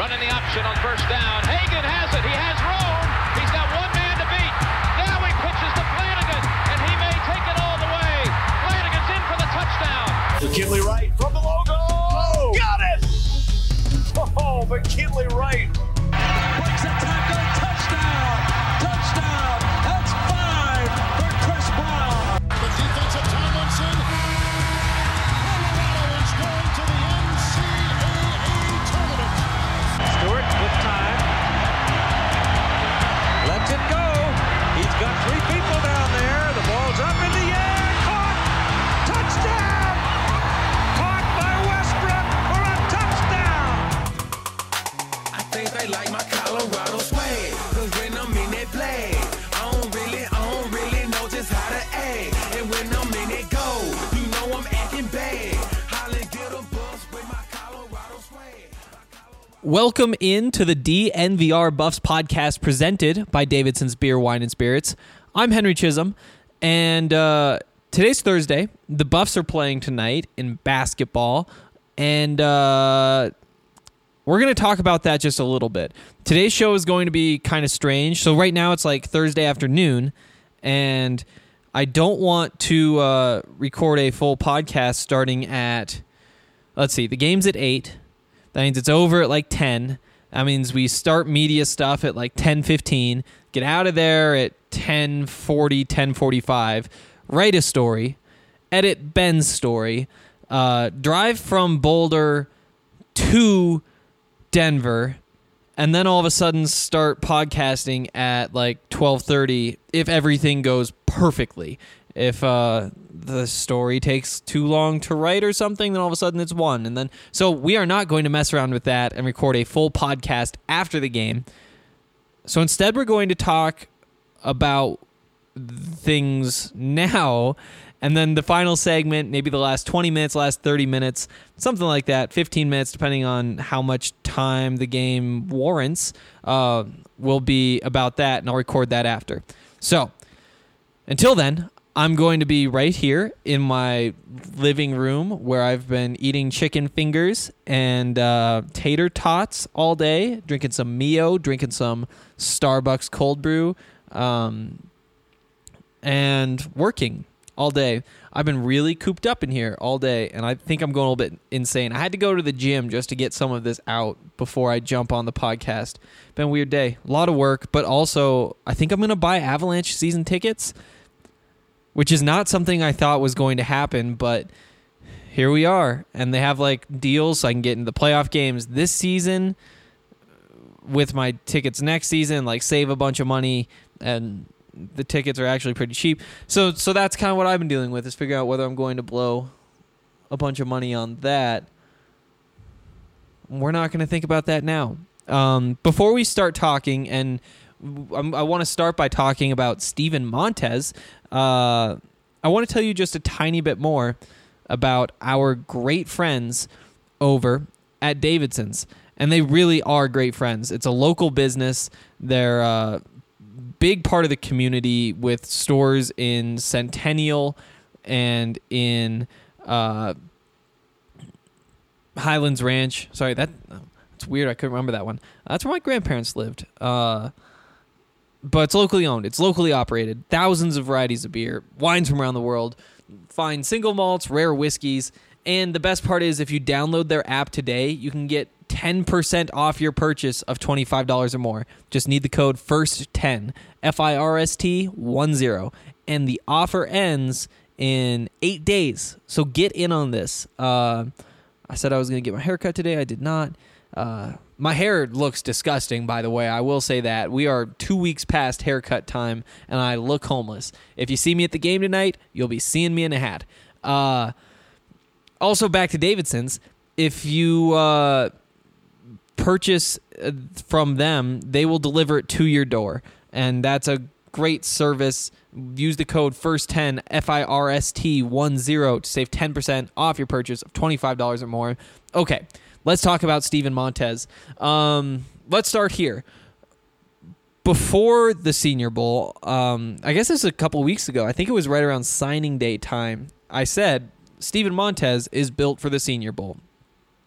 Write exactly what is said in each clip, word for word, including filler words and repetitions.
Running the option on first down. Hagan has it. He has room. He's got one man to beat. Now he pitches to Flanagan, and he may take it all the way. Flanagan's in for the touchdown. McKinley Wright from the logo. Oh, got it! Oh, McKinley Wright. Breaks a tackle. Touchdown. Touchdown. That's five for Chris Brown. The defensive Tomlinson. Colorado is going to the N C double A tournament. Stewart with time. Lets it go. He's got three people down there. The ball's up in the air. Caught. Touchdown. Caught by Westbrook for a touchdown. I think they like my Colorado swag. Cause when I'm in that play, I don't really, I don't really know just how to act. And when I'm in it go, you know I'm acting bad. Holly get a bus with my Colorado swag. Welcome into the D N V R Buffs podcast presented by Davidson's Beer, Wine, and Spirits. I'm Henry Chisholm, and uh, today's Thursday. The Buffs are playing tonight in basketball, and uh, we're going to talk about that just a little bit. Today's show is going to be kind of strange. So right now it's like Thursday afternoon, and I don't want to uh, record a full podcast starting at, let's see, the game's at eight. That means it's over at like ten. That means we start media stuff at like ten fifteen, get out of there at ten forty, ten forty-five, write a story, edit Ben's story, uh, drive from Boulder to Denver, and then all of a sudden start podcasting at like twelve thirty if everything goes perfectly. If uh, the story takes too long to write or something, then all of a sudden it's one. And then so we are not going to mess around with that and record a full podcast after the game. So instead we're going to talk about things now, and then the final segment, maybe the last twenty minutes, last thirty minutes, something like that, fifteen minutes, depending on how much time the game warrants, uh, will be about that, and I'll record that after. So until then, I'm going to be right here in my living room where I've been eating chicken fingers and uh, tater tots all day, drinking some Mio, drinking some Starbucks cold brew, um, and working all day. I've been really cooped up in here all day, and I think I'm going a little bit insane. I had to go to the gym just to get some of this out before I jump on the podcast. Been a weird day. A lot of work, but also I think I'm going to buy Avalanche season tickets, which is not something I thought was going to happen, but here we are. And they have like deals so I can get into the playoff games this season with my tickets next season, like save a bunch of money, and the tickets are actually pretty cheap. So so that's kind of what I've been dealing with, is figuring out whether I'm going to blow a bunch of money on that. We're not going to think about that now. Um, before we start talking, and I'm, I want to start by talking about Steven Montez. Uh, I want to tell you just a tiny bit more about our great friends over at Davidson's. And they really are great friends. It's a local business. They're a big part of the community with stores in Centennial and in uh, Highlands Ranch. Sorry, that that's weird. I couldn't remember that one. That's where my grandparents lived. Uh But it's locally owned. It's locally operated. Thousands of varieties of beer, wines from around the world, fine single malts, rare whiskeys. And the best part is if you download their app today, you can get ten percent off your purchase of twenty-five dollars or more. Just need the code first ten, F I R S T ten. And the offer ends in eight days. So get in on this. Uh, I said I was going to get my hair cut today. I did not. Uh, my hair looks disgusting, by the way. I will say that. We are two weeks past haircut time, and I look homeless. If you see me at the game tonight, you'll be seeing me in a hat. Uh, also, back to Davidson's. If you uh, purchase from them, they will deliver it to your door, and that's a great service. Use the code first ten, F I R S T ten, to save ten percent off your purchase of twenty-five dollars or more. Okay. Let's talk about Steven Montez. Um, let's start here. Before the Senior Bowl, um, I guess this was a couple weeks ago. I think it was right around signing day time. I said Steven Montez is built for the Senior Bowl.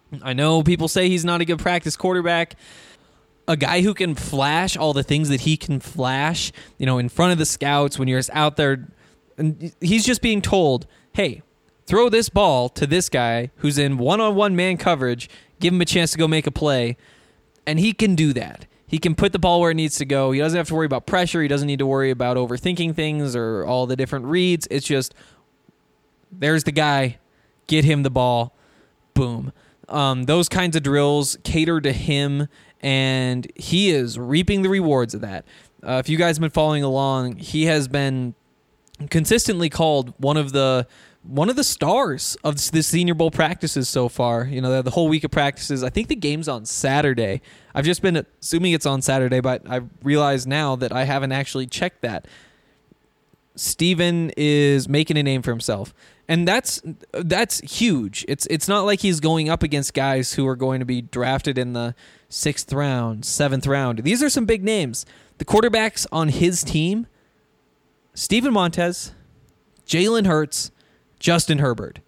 I know people say he's not a good practice quarterback. A guy who can flash all the things that he can flash, you know, in front of the scouts when you're out there, and he's just being told, hey, throw this ball to this guy who's in one-on-one man coverage, give him a chance to go make a play, and he can do that. He can put the ball where it needs to go. He doesn't have to worry about pressure. He doesn't need to worry about overthinking things or all the different reads. It's just, there's the guy, get him the ball, boom. Um, those kinds of drills cater to him, and he is reaping the rewards of that. Uh, if you guys have been following along, he has been consistently called one of the one of the stars of the Senior Bowl practices so far. You know, the whole week of practices. I think the game's on Saturday. I've just been assuming it's on Saturday, but I realize now that I haven't actually checked that. Steven is making a name for himself, and that's that's huge. It's it's not like he's going up against guys who are going to be drafted in the sixth round, seventh round. These are some big names. The quarterbacks on his team: Steven Montez, Jalen Hurts, Justin Herbert.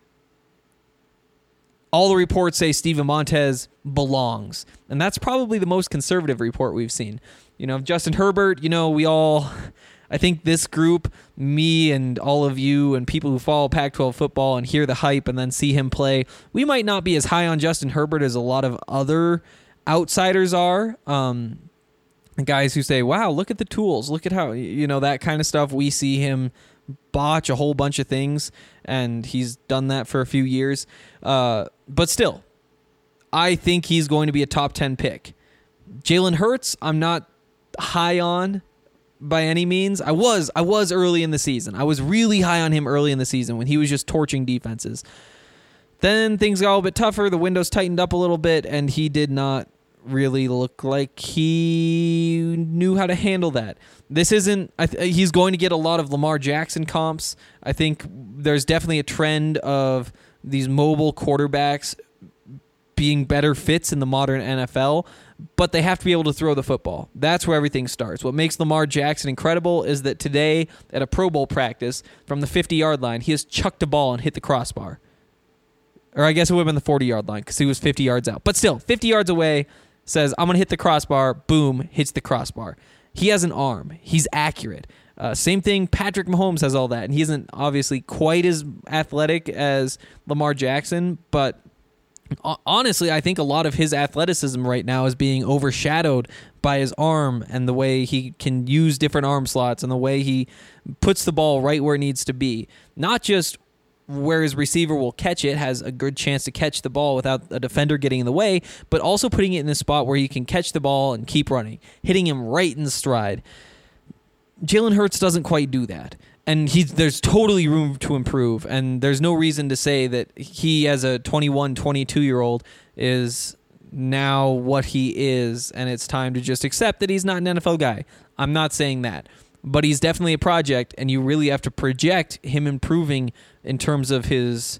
All the reports say Steven Montez belongs, and that's probably the most conservative report we've seen. You know, Justin Herbert, you know, we all, I think this group, me and all of you and people who follow Pac twelve football and hear the hype and then see him play, we might not be as high on Justin Herbert as a lot of other outsiders are. Um, guys who say, wow, look at the tools, look at how, you know, that kind of stuff. We see him botch a whole bunch of things, and he's done that for a few years. Uh, but still, I think he's going to be a top ten pick. Jalen Hurts, I'm not high on by any means. I was I was early in the season. I was really high on him early in the season when he was just torching defenses. Then things got a little bit tougher. The windows tightened up a little bit, and he did not really look like he knew how to handle that. This isn't, I th- he's going to get a lot of Lamar Jackson comps. I think there's definitely a trend of these mobile quarterbacks being better fits in the modern N F L, but they have to be able to throw the football. That's where everything starts. What makes Lamar Jackson incredible is that today at a Pro Bowl practice from the fifty-yard line, he has chucked a ball and hit the crossbar. Or I guess it would have been the forty-yard line because he was fifty yards out. But still, fifty yards away, says, I'm going to hit the crossbar, boom, hits the crossbar. He has an arm. He's accurate. Uh, same thing, Patrick Mahomes has all that, and he isn't obviously quite as athletic as Lamar Jackson, but honestly, I think a lot of his athleticism right now is being overshadowed by his arm and the way he can use different arm slots and the way he puts the ball right where it needs to be. Not just where his receiver will catch it, has a good chance to catch the ball without a defender getting in the way, but also putting it in a spot where he can catch the ball and keep running, hitting him right in stride. Jalen Hurts doesn't quite do that. And he's, there's totally room to improve, and there's no reason to say that he, as a twenty-one, twenty-two-year-old, is now what he is, and it's time to just accept that he's not an N F L guy. I'm not saying that. But he's definitely a project, and you really have to project him improving in terms of his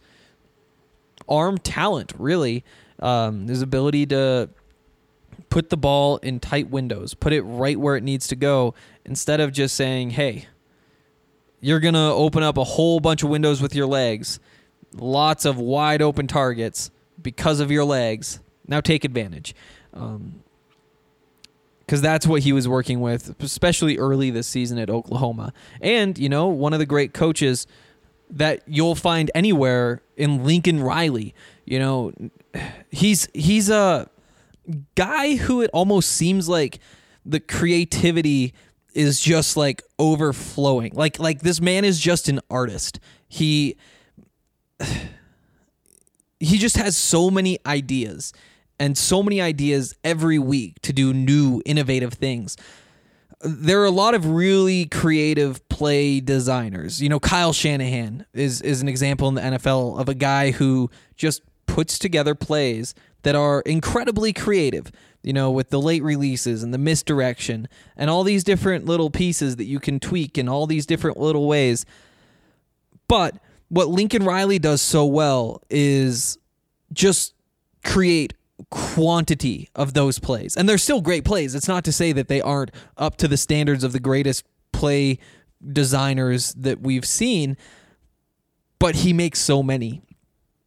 arm talent, really. Um, his ability to put the ball in tight windows, put it right where it needs to go, instead of just saying, hey, you're going to open up a whole bunch of windows with your legs, lots of wide open targets because of your legs. Now take advantage. Um, because that's what he was working with, especially early this season at Oklahoma. And, you know, one of the great coaches that you'll find anywhere in Lincoln Riley. You know, he's he's a guy who it almost seems like the creativity is just like overflowing. Like like this man is just an artist. He he just has so many ideas. And so many ideas every week to do new, innovative things. There are a lot of really creative play designers. You know, Kyle Shanahan is, is an example in the N F L of a guy who just puts together plays that are incredibly creative, you know, with the late releases and the misdirection and all these different little pieces that you can tweak in all these different little ways. But what Lincoln Riley does so well is just create quantity of those plays. And they're still great plays. It's not to say that they aren't up to the standards of the greatest play designers that we've seen, but he makes so many.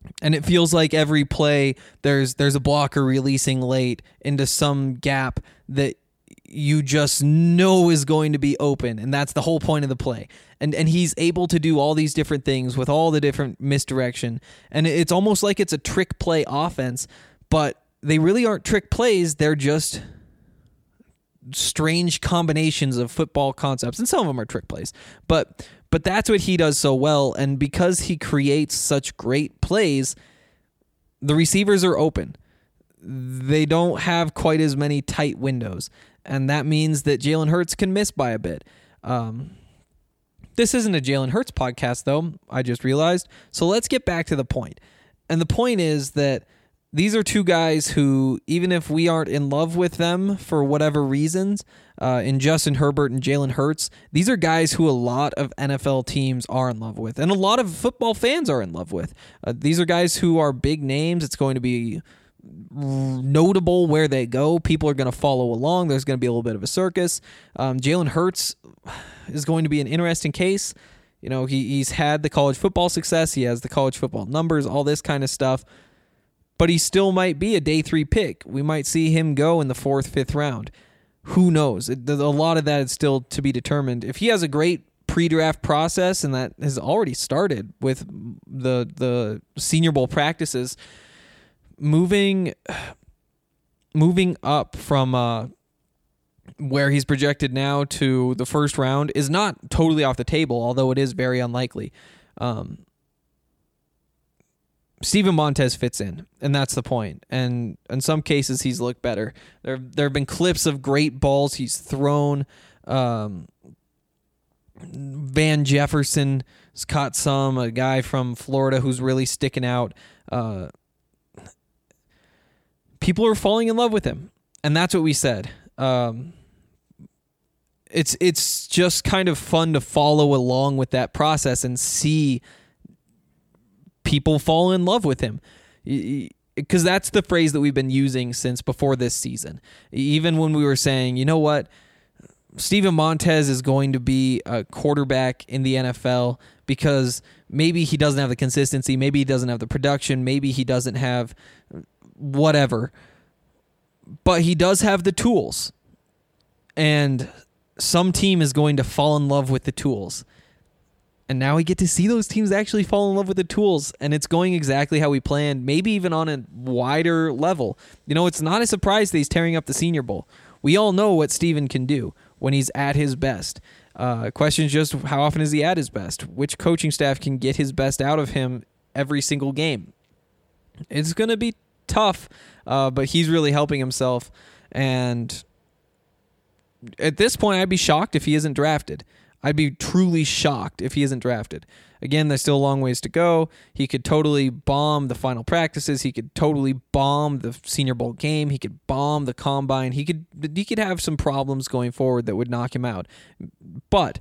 And it feels like every play there's there's a blocker releasing late into some gap that you just know is going to be open, and that's the whole point of the play. And and he's able to do all these different things with all the different misdirection, and it's almost like it's a trick play offense, but they really aren't trick plays. They're just strange combinations of football concepts, and some of them are trick plays. But but that's what he does so well, and because he creates such great plays, the receivers are open. They don't have quite as many tight windows, and that means that Jalen Hurts can miss by a bit. Um, this isn't a Jalen Hurts podcast, though, I just realized. So let's get back to the point. And the point is that these are two guys who, even if we aren't in love with them for whatever reasons, uh, in Justin Herbert and Jalen Hurts, these are guys who a lot of N F L teams are in love with, and a lot of football fans are in love with. Uh, these are guys who are big names. It's going to be notable where they go. People are going to follow along. There's going to be a little bit of a circus. Um, Jalen Hurts is going to be an interesting case. You know, he, he's had the college football success. He has the college football numbers, all this kind of stuff. But he still might be a day three pick. We might see him go in the fourth, fifth round. Who knows? It, a lot of that is still to be determined. If he has a great pre-draft process, and that has already started with the the Senior Bowl practices, moving moving up from uh, where he's projected now to the first round is not totally off the table, although it is very unlikely. Um, Steven Montez fits in, and that's the point. And in some cases, he's looked better. There, there have been clips of great balls he's thrown. Um, Van Jefferson has caught some, a guy from Florida who's really sticking out. Uh, people are falling in love with him, and that's what we said. Um, it's it's just kind of fun to follow along with that process and see people fall in love with him, because that's the phrase that we've been using since before this season. Even when we were saying, you know what, Steven Montez is going to be a quarterback in the N F L because maybe he doesn't have the consistency, maybe he doesn't have the production, maybe he doesn't have whatever, but he does have the tools, and some team is going to fall in love with the tools. And now we get to see those teams actually fall in love with the tools, and it's going exactly how we planned, maybe even on a wider level. You know, it's not a surprise that he's tearing up the Senior Bowl. We all know what Steven can do when he's at his best. Uh, question is just how often is he at his best? Which coaching staff can get his best out of him every single game? It's going to be tough, uh, but he's really helping himself. And at this point, I'd be shocked if he isn't drafted. I'd be truly shocked if he isn't drafted. Again, there's still a long ways to go. He could totally bomb the final practices. He could totally bomb the Senior Bowl game. He could bomb the combine. He could he could have some problems going forward that would knock him out. But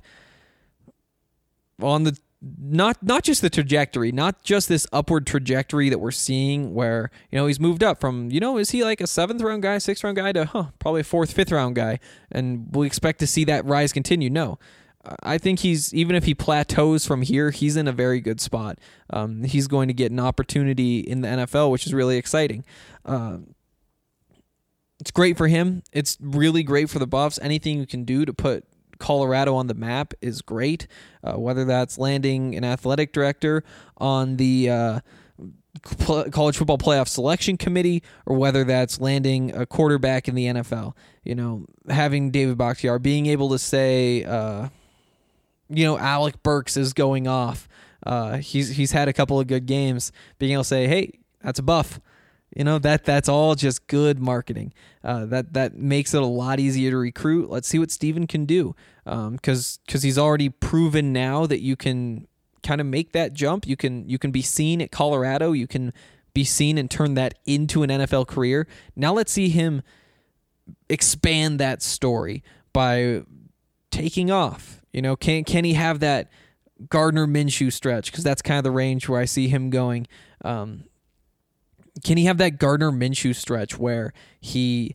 on the not not just the trajectory, not just this upward trajectory that we're seeing where, you know, he's moved up from, you know, is he like a seventh round guy, sixth round guy to huh, probably a fourth, fifth round guy, and we expect to see that rise continue. No. I think he's, even if he plateaus from here, he's in a very good spot. Um, he's going to get an opportunity in the N F L, which is really exciting. Uh, it's great for him. It's really great for the Buffs. Anything you can do to put Colorado on the map is great, uh, whether that's landing an athletic director on the uh, college football playoff selection committee, or whether that's landing a quarterback in the N F L. You know, having David Bakhtiari, being able to say, uh, you know, Alec Burks is going off. Uh, he's he's had a couple of good games. Being able to say, hey, that's a Buff. You know, that that's all just good marketing. Uh, that that makes it a lot easier to recruit. Let's see what Steven can do, because um, because he's already proven now that you can kind of make that jump. You can you can be seen at Colorado. You can be seen and turn that into an N F L career. Now let's see him expand that story by taking off. You know, can can he have that Gardner Minshew stretch? Because that's kind of the range where I see him going. Um, can he have that Gardner Minshew stretch where he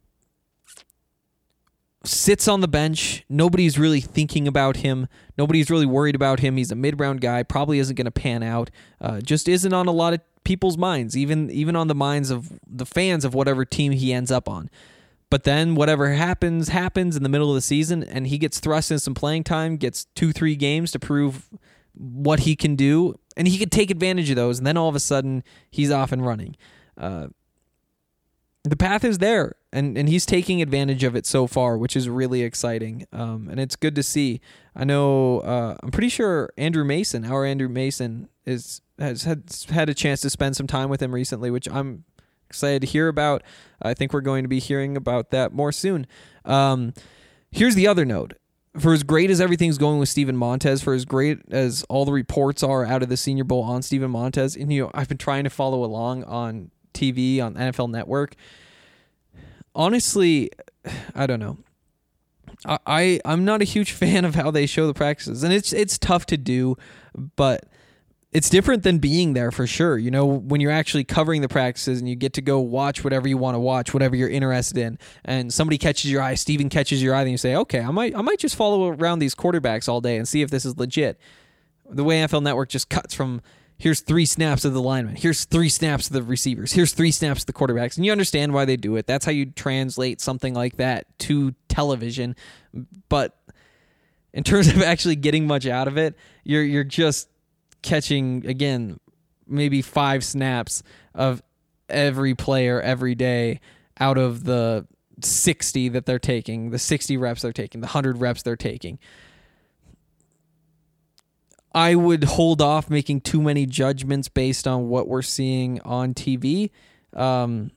sits on the bench, nobody's really thinking about him, nobody's really worried about him, he's a mid-round guy, probably isn't going to pan out, uh, just isn't on a lot of people's minds, even even on the minds of the fans of whatever team he ends up on. But then whatever happens, happens in the middle of the season, and he gets thrust in some playing time, gets two, three games to prove what he can do, and he could take advantage of those, and then all of a sudden, he's off and running. Uh, the path is there, and, and he's taking advantage of it so far, which is really exciting, um, and it's good to see. I know, uh, I'm pretty sure Andrew Mason, our Andrew Mason, is has had, had a chance to spend some time with him recently, which I'm excited to hear about. I think we're going to be hearing about that more soon. Um, here's the other note. For as great as everything's going with Steven Montez, for as great as all the reports are out of the Senior Bowl on Steven Montez, and you know, I've been trying to follow along on T V, on N F L Network. Honestly, I don't know. I, I I'm not a huge fan of how they show the practices, and it's it's tough to do, but it's different than being there for sure. You know, when you're actually covering the practices and you get to go watch whatever you want to watch, whatever you're interested in, and somebody catches your eye, Steven catches your eye, then you say, okay, I might I might just follow around these quarterbacks all day and see if this is legit. The way N F L Network just cuts from, here's three snaps of the linemen, here's three snaps of the receivers, here's three snaps of the quarterbacks, and you understand why they do it. That's how you translate something like that to television. But in terms of actually getting much out of it, you're you're just catching, again, maybe five snaps of every player every day out of the sixty that they're taking, the sixty reps they're taking, the one hundred reps they're taking. I would hold off making too many judgments based on what we're seeing on T V, um,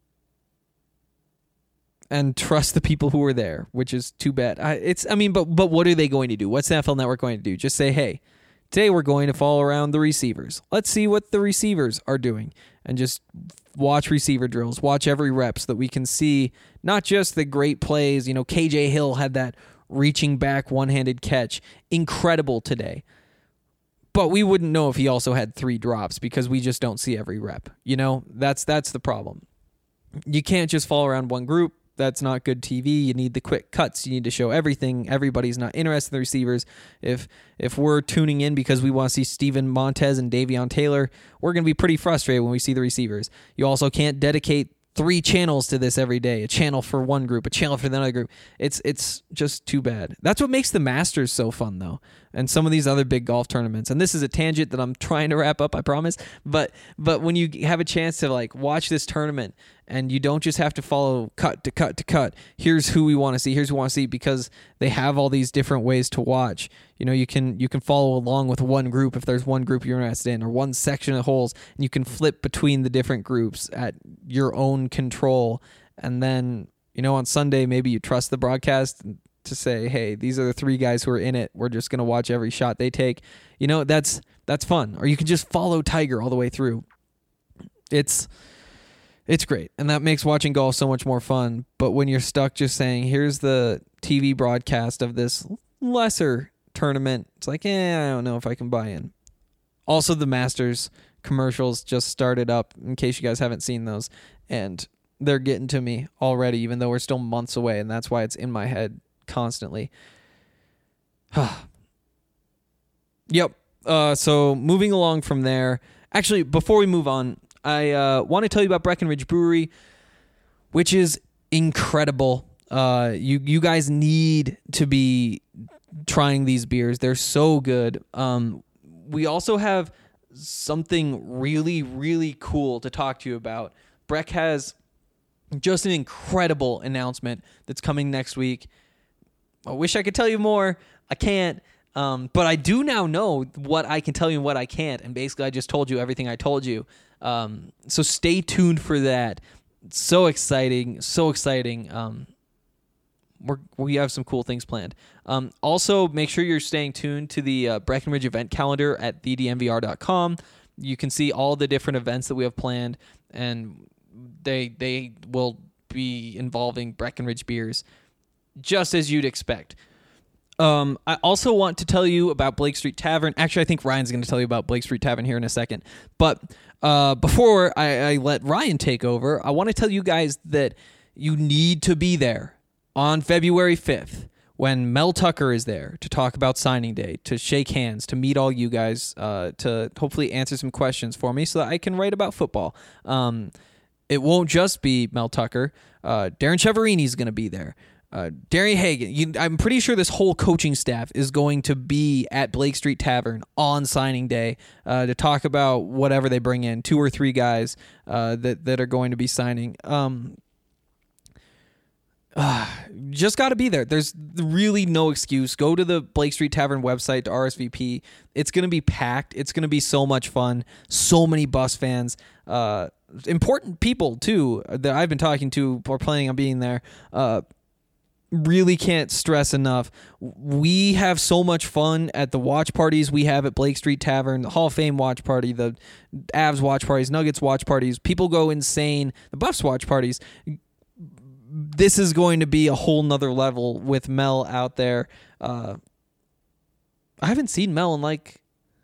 and trust the people who are there, which is too bad. I, it's, I mean, but but what are they going to do? What's the N F L Network going to do? Just say, hey, today we're going to follow around the receivers. Let's see what the receivers are doing, and just watch receiver drills, watch every rep so that we can see not just the great plays. You know, K J Hill had that reaching back one-handed catch. Incredible today. But we wouldn't know if he also had three drops because we just don't see every rep. You know, that's that's the problem. You can't just follow around one group. That's not good T V. You need the quick cuts. You need to show everything. Everybody's not interested in the receivers. If if we're tuning in because we want to see Steven Montez and Davion Taylor, we're going to be pretty frustrated when we see the receivers. You also can't dedicate three channels to this every day. A channel for one group, a channel for the other group. It's it's just too bad. That's what makes the Masters so fun, though, and some of these other big golf tournaments. And this is a tangent that I'm trying to wrap up, I promise. But but when you have a chance to like watch this tournament, and you don't just have to follow cut to cut to cut. Here's who we want to see. Here's who we want to see, because they have all these different ways to watch. You know, you can you can follow along with one group if there's one group you're interested in, or one section of holes, and you can flip between the different groups at your own control. And then, you know, on Sunday, maybe you trust the broadcast to say, hey, these are the three guys who are in it. We're just going to watch every shot they take. You know, that's that's fun. Or you can just follow Tiger all the way through. It's... It's great, and that makes watching golf so much more fun. But when you're stuck just saying, here's the T V broadcast of this lesser tournament, it's like, eh, I don't know if I can buy in. Also, the Masters commercials just started up, in case you guys haven't seen those, and they're getting to me already, even though we're still months away, and that's why it's in my head constantly. Yep. Uh, so moving along from there, actually, before we move on, I uh, want to tell you about Breckenridge Brewery, which is incredible. Uh, you you guys need to be trying these beers. They're so good. Um, we also have something really, really cool to talk to you about. Breck has just an incredible announcement that's coming next week. I wish I could tell you more. I can't. Um, but I do now know what I can tell you and what I can't. And basically, I just told you everything I told you. Um, so stay tuned for that. It's so exciting, so exciting. Um, we're, we have some cool things planned. Um, also, make sure you're staying tuned to the uh, Breckenridge event calendar at the d n v r dot com. You can see all the different events that we have planned, and they they will be involving Breckenridge beers, just as you'd expect. Um, I also want to tell you about Blake Street Tavern. Actually, I think Ryan's going to tell you about Blake Street Tavern here in a second. But uh, before I, I let Ryan take over, I want to tell you guys that you need to be there on February fifth. when Mel Tucker is there to talk about signing day, to shake hands, to meet all you guys, uh, to hopefully answer some questions for me so that I can write about football. Um, it won't just be Mel Tucker. Uh, Darren Chiaverini is going to be there. Uh, Darian Hagan. You, I'm pretty sure this whole coaching staff is going to be at Blake Street Tavern on signing day uh, to talk about whatever they bring in, two or three guys uh, that, that are going to be signing. Um, Uh, just got to be there. There's really no excuse. Go to the Blake Street Tavern website to R S V P. It's going to be packed. It's going to be so much fun. So many Buffs fans. Uh, important people, too, that I've been talking to or planning on being there. Uh, really can't stress enough. We have so much fun at the watch parties we have at Blake Street Tavern, the Hall of Fame watch party, the Avs watch parties, Nuggets watch parties. People go insane. The Buffs watch parties. This is going to be a whole nother level with Mel out there. Uh, I haven't seen Mel in like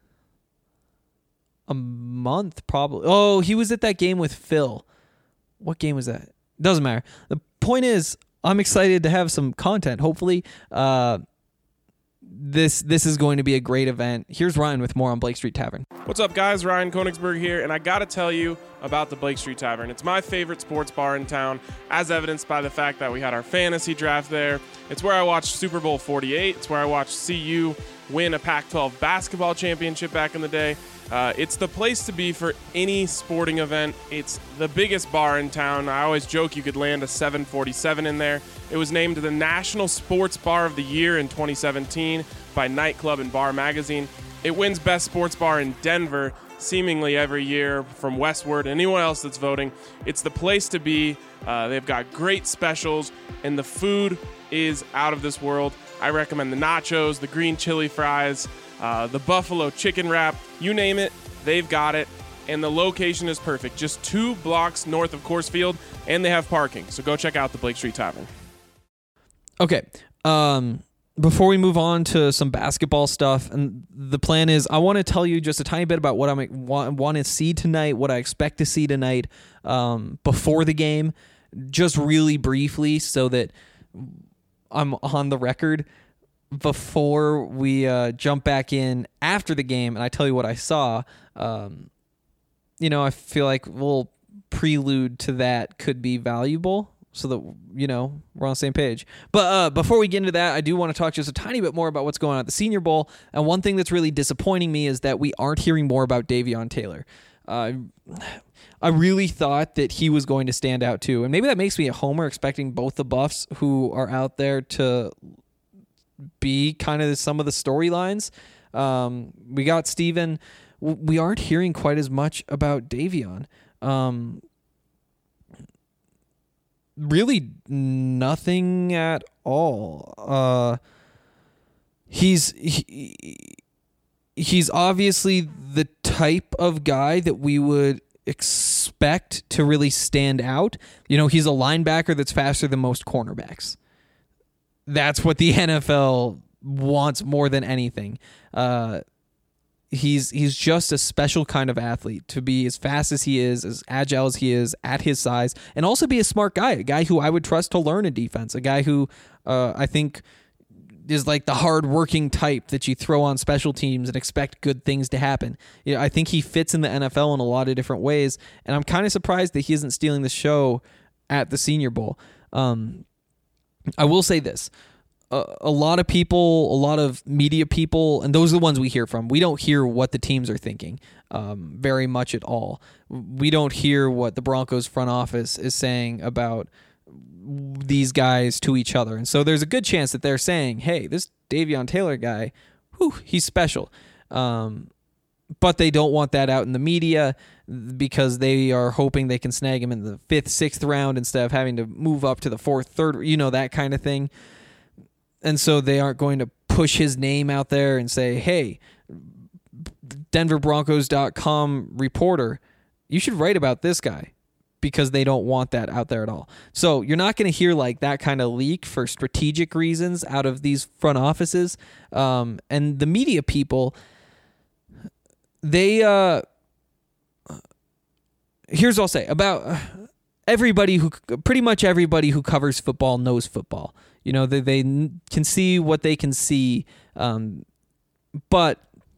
a month, probably. Oh, he was at that game with Phil. What game was that? Doesn't matter. The point is, I'm excited to have some content. Hopefully, uh, this this is going to be a great event. Here's Ryan with more on Blake Street Tavern. What's up, guys? Ryan Koenigsberg here, and I got to tell you about the Blake Street Tavern. It's my favorite sports bar in town, as evidenced by the fact that we had our fantasy draft there. It's where I watched Super Bowl forty-eight. It's where I watched C U win a Pac twelve basketball championship back in the day. Uh, it's the place to be for any sporting event. It's the biggest bar in town. I always joke you could land a seven forty-seven in there. It was named the National Sports Bar of the Year in twenty seventeen by Nightclub and Bar Magazine. It wins Best Sports Bar in Denver seemingly every year from Westward. Anyone else that's voting, it's the place to be. Uh, they've got great specials, and the food is out of this world. I recommend the nachos, the green chili fries, uh, the buffalo chicken wrap, you name it, they've got it. And the location is perfect, just two blocks north of Coors Field, and they have parking. So go check out the Blake Street Tavern. Okay. Um, before we move on to some basketball stuff, and the plan is I want to tell you just a tiny bit about what I want, want to see tonight, what I expect to see tonight um, before the game, just really briefly so that I'm on the record before we uh, jump back in after the game and I tell you what I saw. Um, you know, I feel like a little prelude to that could be valuable so that, you know, we're on the same page. But uh, before we get into that, I do want to talk just a tiny bit more about what's going on at the Senior Bowl. And one thing that's really disappointing me is that we aren't hearing more about Davion Taylor. Uh, I really thought that he was going to stand out too. And maybe that makes me a homer, expecting both the Buffs who are out there to be kind of some of the storylines. Um, we got Steven. We aren't hearing quite as much about Davion. Um, really nothing at all. Uh, he's he, he's obviously the type of guy that we would expect to really stand out. You know, he's a linebacker that's faster than most cornerbacks. That's what the N F L wants more than anything. Uh, he's he's just a special kind of athlete to be as fast as he is, as agile as he is at his size, and also be a smart guy, a guy who I would trust to learn a defense, a guy who uh, I think is like the hard-working type that you throw on special teams and expect good things to happen. You know, I think he fits in the N F L in a lot of different ways, and I'm kind of surprised that he isn't stealing the show at the Senior Bowl. Um, I will say this. A, a lot of people, a lot of media people, and those are the ones we hear from, we don't hear what the teams are thinking um, very much at all. We don't hear what the Broncos front office is saying about these guys to each other. And so there's a good chance that they're saying, hey, this Davion Taylor guy, whew, he's special. Um, but they don't want that out in the media because they are hoping they can snag him in the fifth, sixth round instead of having to move up to the fourth, third, you know, that kind of thing. And so they aren't going to push his name out there and say, hey, Denver Broncos dot com reporter, you should write about this guy, because they don't want that out there at all. So you're not going to hear like that kind of leak for strategic reasons out of these front offices. Um, and the media people, they, uh, here's what I'll say about, everybody who pretty much everybody who covers football knows football. You know, they they can see what they can see, um, but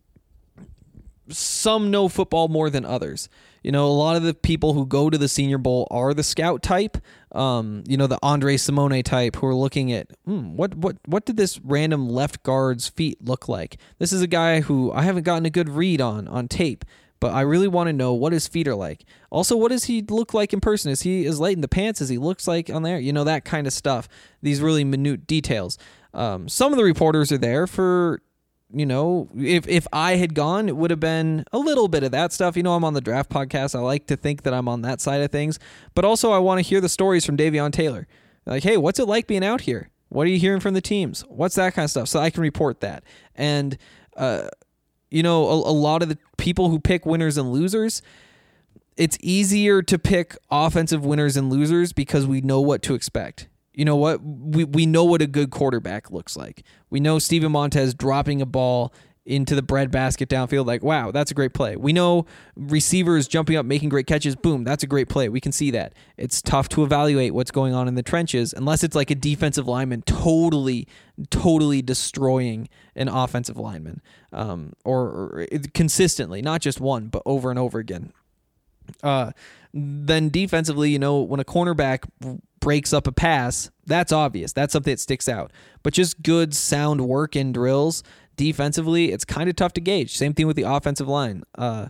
some know football more than others. You know, a lot of the people who go to the Senior Bowl are the scout type, um, you know, the Andre Simone type, who are looking at, hmm, what what what did this random left guard's feet look like? This is a guy who I haven't gotten a good read on on tape, but I really want to know what his feet are like. Also, what does he look like in person? Is he as light in the pants as he looks like on there? You know, that kind of stuff. These really minute details. Um, some of the reporters are there for, you know, if if I had gone, it would have been a little bit of that stuff. You know, I'm on the Draft Podcast. I like to think that I'm on that side of things. But also, I want to hear the stories from Davion Taylor. Like, hey, what's it like being out here? What are you hearing from the teams? What's that kind of stuff? So I can report that. And, uh, you know, a, a lot of the people who pick winners and losers, it's easier to pick offensive winners and losers because we know what to expect. You know what? We we know what a good quarterback looks like. We know Steven Montez dropping a ball into the breadbasket downfield. Like, wow, that's a great play. We know receivers jumping up, making great catches. Boom, that's a great play. We can see that. It's tough to evaluate what's going on in the trenches unless it's like a defensive lineman totally, totally destroying an offensive lineman, um, or, or consistently, not just one, but over and over again. Uh, then defensively, you know, when a cornerback breaks up a pass, that's obvious. That's something that sticks out. But just good, sound work in drills, defensively, it's kind of tough to gauge. Same thing with the offensive line. Uh,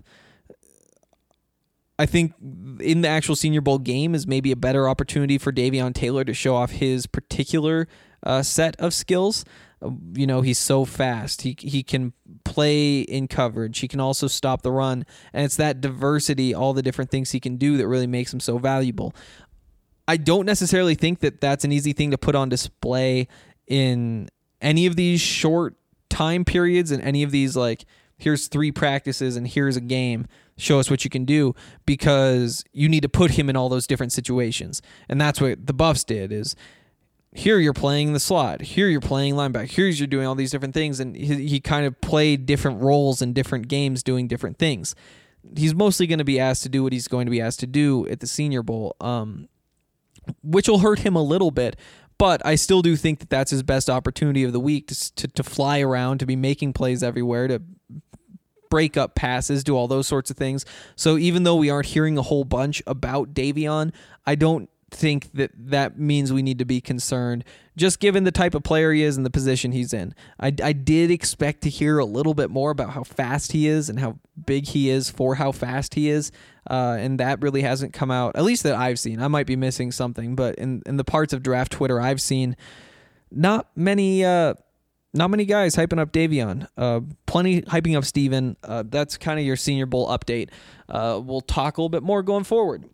I think in the actual Senior Bowl game is maybe a better opportunity for Davion Taylor to show off his particular uh, set of skills. Uh, you know, he's so fast. He he can play in coverage. He can also stop the run. And it's that diversity, all the different things he can do that really makes him so valuable. I don't necessarily think that that's an easy thing to put on display in any of these short time periods and any of these, like, here's three practices and here's a game. Show us what you can do, because you need to put him in all those different situations. And that's what the Buffs did is, here you're playing the slot. Here you're playing linebacker. Here's you're doing all these different things. And he, he kind of played different roles in different games doing different things. He's mostly going to be asked to do what he's going to be asked to do at the Senior Bowl, um, which will hurt him a little bit. But I still do think that that's his best opportunity of the week to, to, to fly around, to be making plays everywhere, to break up passes, do all those sorts of things. So even though we aren't hearing a whole bunch about Davion, I don't think that that means we need to be concerned, just given the type of player he is and the position he's in. I, I did expect to hear a little bit more about how fast he is and how big he is for how fast he is, uh, and that really hasn't come out, at least that I've seen. I might be missing something, but in, in the parts of draft Twitter I've seen, not many uh, not many guys hyping up Davion. Uh, plenty hyping up Steven. Uh, that's kind of your Senior Bowl update. Uh, we'll talk a little bit more going forward.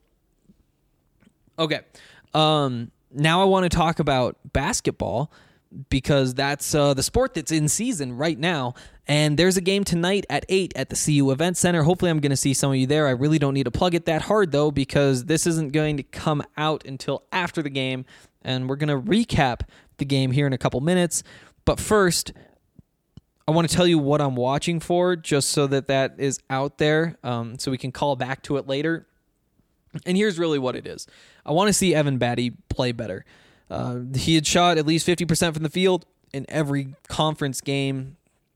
Okay. Um, now I want to talk about basketball, because that's uh, the sport that's in season right now. And there's a game tonight at eight at the C U Event Center. Hopefully I'm going to see some of you there. I really don't need to plug it that hard, though, because this isn't going to come out until after the game. And we're going to recap the game here in a couple minutes. But first, I want to tell you what I'm watching for, just so that that is out there, um, so we can call back to it later. And here's really what it is. I want to see Evan Batty play better. Uh, he had shot at least fifty percent from the field in every conference game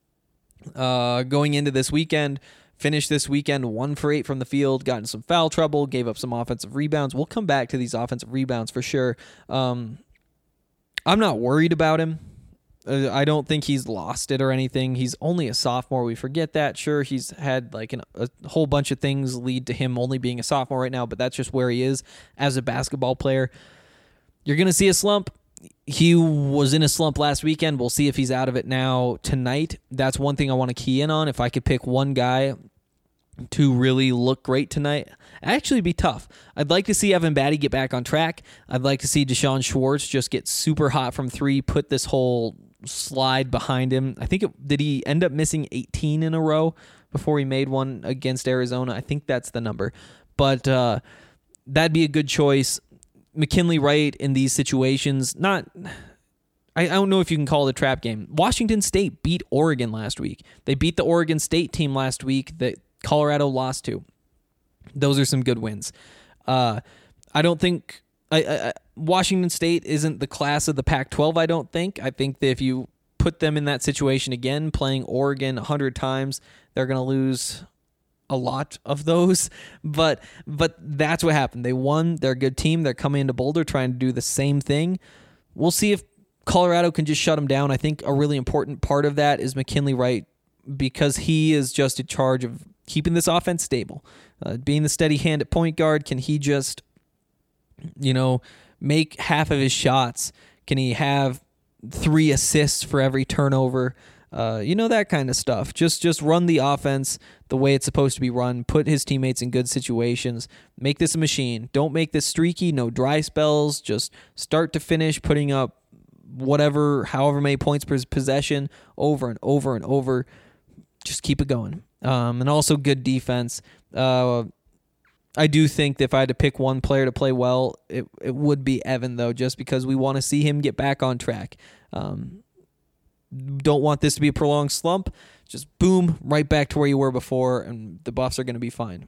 uh, going into this weekend. Finished this weekend one for eight from the field, got in some foul trouble, gave up some offensive rebounds. We'll come back to these offensive rebounds for sure. Um, I'm not worried about him. Uh, I don't think he's lost it or anything. He's only a sophomore. We forget that. Sure, he's had like an, a whole bunch of things lead to him only being a sophomore right now, but that's just where he is as a basketball player. You're going to see a slump. He was in a slump last weekend. We'll see if he's out of it now tonight. That's one thing I want to key in on. If I could pick one guy to really look great tonight, actually be tough. I'd like to see Evan Batty get back on track. I'd like to see Deshaun Schwartz just get super hot from three, put this whole slide behind him. I think it, did he end up missing eighteen in a row before he made one against Arizona? I think that's the number. But uh, that'd be a good choice. McKinley Wright in these situations, not... I don't know if you can call it a trap game. Washington State beat Oregon last week. They beat the Oregon State team last week that Colorado lost to. Those are some good wins. Uh, I don't think I, I, Washington State isn't the class of the Pac twelve, I don't think. I think that if you put them in that situation again, playing Oregon a hundred times, they're going to lose a lot of those. But but that's what happened. They won. They're a good team. They're coming into Boulder trying to do the same thing. We'll see if Colorado can just shut them down. I think a really important part of that is McKinley Wright, because he is just in charge of keeping this offense stable. Uh, being the steady hand at point guard, can he just, you know, make half of his shots? Can he have three assists for every turnover? Uh, you know, that kind of stuff. Just just run the offense the way it's supposed to be run. Put his teammates in good situations. Make this a machine. Don't make this streaky. No dry spells. Just start to finish, putting up whatever, however many points per possession over and over and over. Just keep it going. Um, and also good defense. Uh, I do think that if I had to pick one player to play well, it it would be Evan, though, just because we want to see him get back on track. Um, don't want this to be a prolonged slump. Just boom, right back to where you were before, and the Buffs are going to be fine.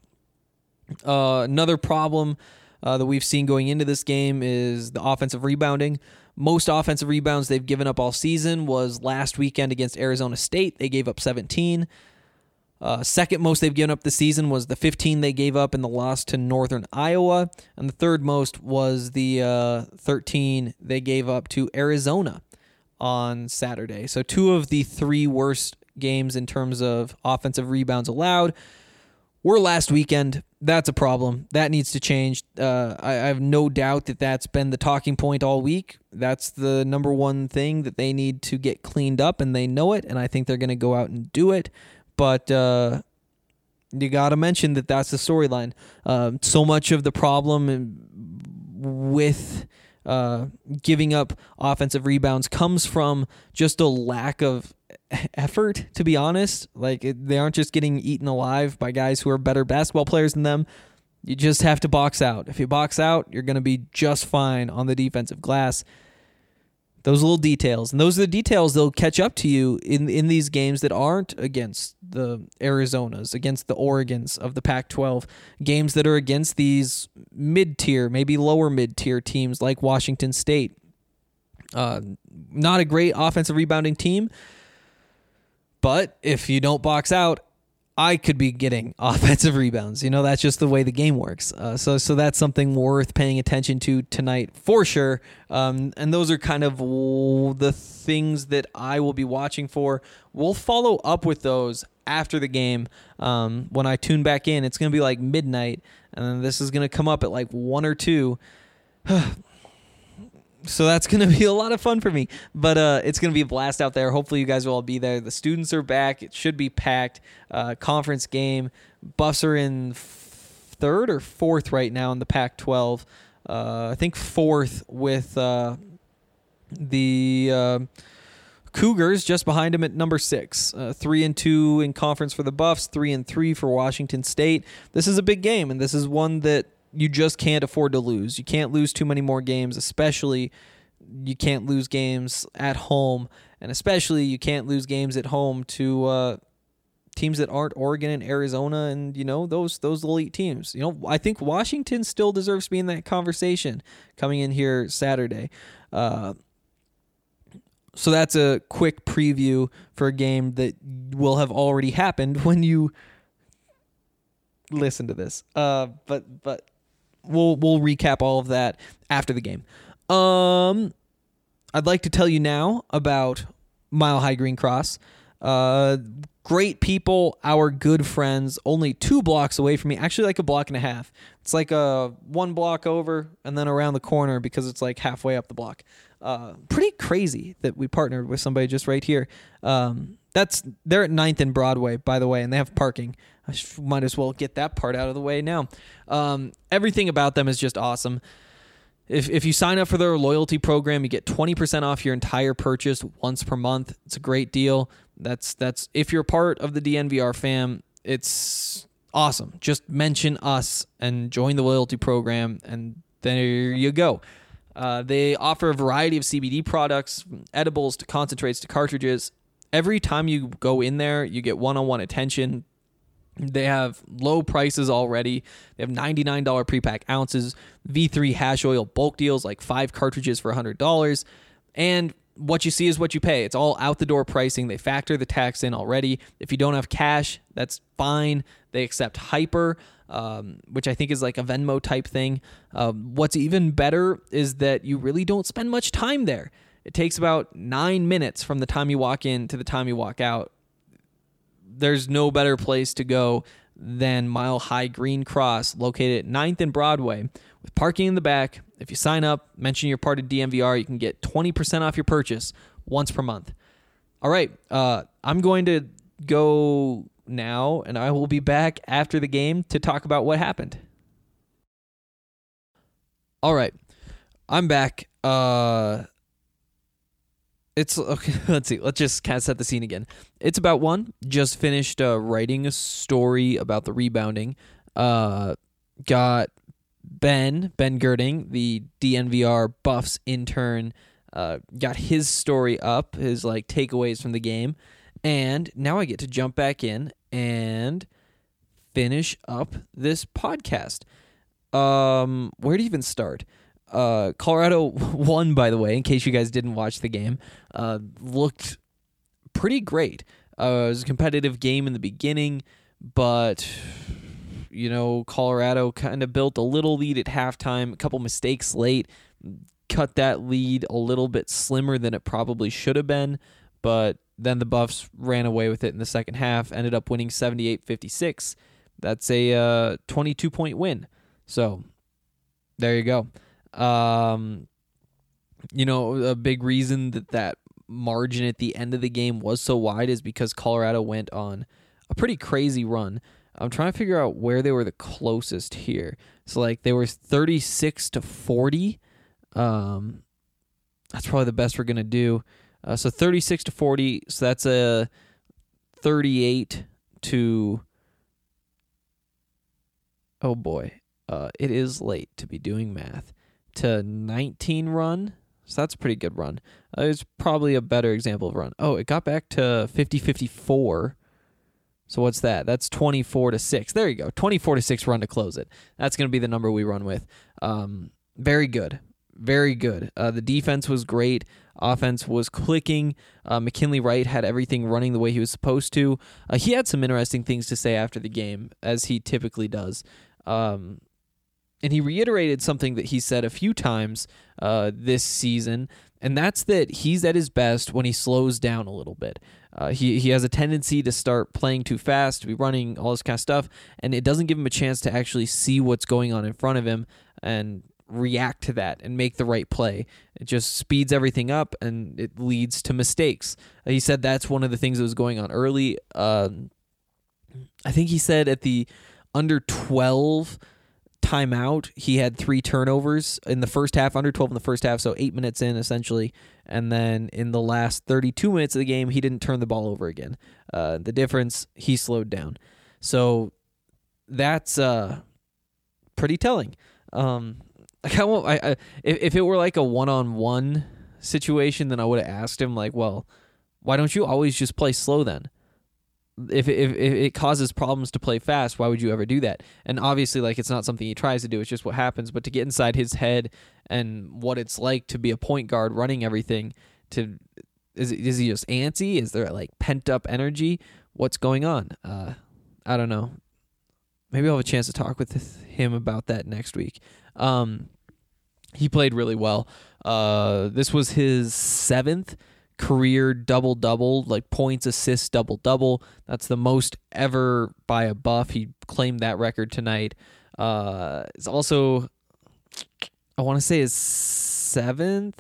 Uh, another problem uh, that we've seen going into this game is the offensive rebounding. Most offensive rebounds they've given up all season was last weekend against Arizona State. They gave up seventeen. Uh, second most they've given up this season was the fifteen they gave up in the loss to Northern Iowa. And the third most was the uh, thirteen they gave up to Arizona on Saturday. So two of the three worst games in terms of offensive rebounds allowed were last weekend. That's a problem. That needs to change. Uh, I, I have no doubt that that's been the talking point all week. That's the number one thing that they need to get cleaned up, and they know it, and I think they're going to go out and do it. But uh, you got to mention that that's the storyline. Uh, so much of the problem with uh, giving up offensive rebounds comes from just a lack of effort, to be honest. Like, it, they aren't just getting eaten alive by guys who are better basketball players than them. You just have to box out. If you box out, you're going to be just fine on the defensive glass. Those little details, and those are the details that'll catch up to you in in these games that aren't against the Arizonas, against the Oregons of the Pac twelve, games that are against these mid-tier, maybe lower mid-tier teams like Washington State. Uh, not a great offensive rebounding team, but if you don't box out, I could be getting offensive rebounds. You know, that's just the way the game works. Uh, so so that's something worth paying attention to tonight for sure. Um, and those are kind of the things that I will be watching for. We'll follow up with those after the game. Um, when I tune back in, it's going to be like midnight, and then this is going to come up at like one or two. So that's going to be a lot of fun for me. But uh, it's going to be a blast out there. Hopefully you guys will all be there. The students are back. It should be packed. Uh, conference game. Buffs are in f- third or fourth right now in the Pac twelve. Uh, I think fourth with uh, the uh, Cougars just behind them at number six. Uh, three and two in conference for the Buffs. Three and three for Washington State. This is a big game, and this is one that you just can't afford to lose. You can't lose too many more games, especially you can't lose games at home, and especially you can't lose games at home to uh, teams that aren't Oregon and Arizona and, you know, those those elite teams. You know, I think Washington still deserves to be in that conversation coming in here Saturday. Uh, so that's a quick preview for a game that will have already happened when you listen to this. Uh, but but. We'll we'll recap all of that after the game. Um, I'd like to tell you now about Mile High Green Cross. Uh, great people, our good friends, only two blocks away from me. Actually, like a block and a half. It's like a one block over and then around the corner because it's like halfway up the block. Uh, pretty crazy that we partnered with somebody just right here. Um, that's they're at ninth and Broadway, by the way, and they have parking. I should, might as well get that part out of the way now. Um, everything about them is just awesome. If if you sign up for their loyalty program, you get twenty percent off your entire purchase once per month. It's a great deal. That's that's if you're part of the D N V R fam, it's awesome. Just mention us and join the loyalty program, and there you go. Uh, they offer a variety of C B D products, from edibles to concentrates to cartridges. Every time you go in there, you get one-on-one attention. They have low prices already. They have ninety-nine dollars pre-pack ounces, V three hash oil bulk deals like five cartridges for one hundred dollars. And what you see is what you pay. It's all out-the-door pricing. They factor the tax in already. If you don't have cash, that's fine. They accept Hyper, um, which I think is like a Venmo type thing. Um, what's even better is that you really don't spend much time there. It takes about nine minutes from the time you walk in to the time you walk out. There's no better place to go than Mile High Green Cross, located at ninth and Broadway, with parking in the back. If you sign up, mention you're part of D N V R, you can get twenty percent off your purchase once per month. All right, uh, I'm going to go now, and I will be back after the game to talk about what happened. All right, I'm back. Uh... It's okay. Let's see. Let's just kind of set the scene again. It's about one. Just finished uh, writing a story about the rebounding. Uh, got Ben Ben Girding, the D N V R Buffs intern. Uh, got his story up, his like takeaways from the game, and now I get to jump back in and finish up this podcast. Um, where to even start? Uh, Colorado won, by the way, in case you guys didn't watch the game. Uh, looked pretty great. Uh, it was a competitive game in the beginning, but, you know, Colorado kind of built a little lead at halftime, a couple mistakes late, cut that lead a little bit slimmer than it probably should have been, but then the Buffs ran away with it in the second half, ended up winning seventy-eight fifty-six. That's a uh, twenty-two point win. So, there you go. Um, you know, a big reason that that margin at the end of the game was so wide is because Colorado went on a pretty crazy run. I'm trying to figure out where they were the closest here. So, like, they were thirty-six to forty. Um, that's probably the best we're going to do. Uh, so, thirty-six to forty. So, that's a thirty-eight to... Oh, boy. Uh, it is late to be doing math. To nineteen run, so that's a pretty good run. Uh, it's probably a better example of run. Oh, it got back to fifty fifty-four. So what's that? That's twenty-four to six. There you go. twenty-four to six run to close it. That's going to be the number we run with. Um, very good. Very good. Uh, the defense was great. Offense was clicking. Uh, McKinley Wright had everything running the way he was supposed to. Uh, he had some interesting things to say after the game, as he typically does. Um, And he reiterated something that he said a few times uh, this season, and that's that he's at his best when he slows down a little bit. Uh, he he has a tendency to start playing too fast, to be running, all this kind of stuff, and it doesn't give him a chance to actually see what's going on in front of him and react to that and make the right play. It just speeds everything up, and it leads to mistakes. Uh, he said that's one of the things that was going on early. Um, I think he said at the under twelve timeout, he had three turnovers in the first half, under twelve in the first half, so eight minutes in, essentially. And then in the last thirty-two minutes of the game, he didn't turn the ball over again. Uh, the difference, he slowed down. So that's uh, pretty telling. Um, I, I, I, if, if it were like a one-on-one situation, then I would have asked him, like, well, why don't you always just play slow then? If, if if it causes problems to play fast, why would you ever do that? And obviously, like, it's not something he tries to do. It's just what happens. But to get inside his head and what it's like to be a point guard running everything, to is is he just antsy? Is there like pent up energy? What's going on? Uh, I don't know. Maybe I'll have a chance to talk with him about that next week. Um, he played really well. Uh, this was his seventh career double-double, like points, assists, double-double. That's the most ever by a Buff. He claimed that record tonight. Uh, it's also, I want to say his seventh.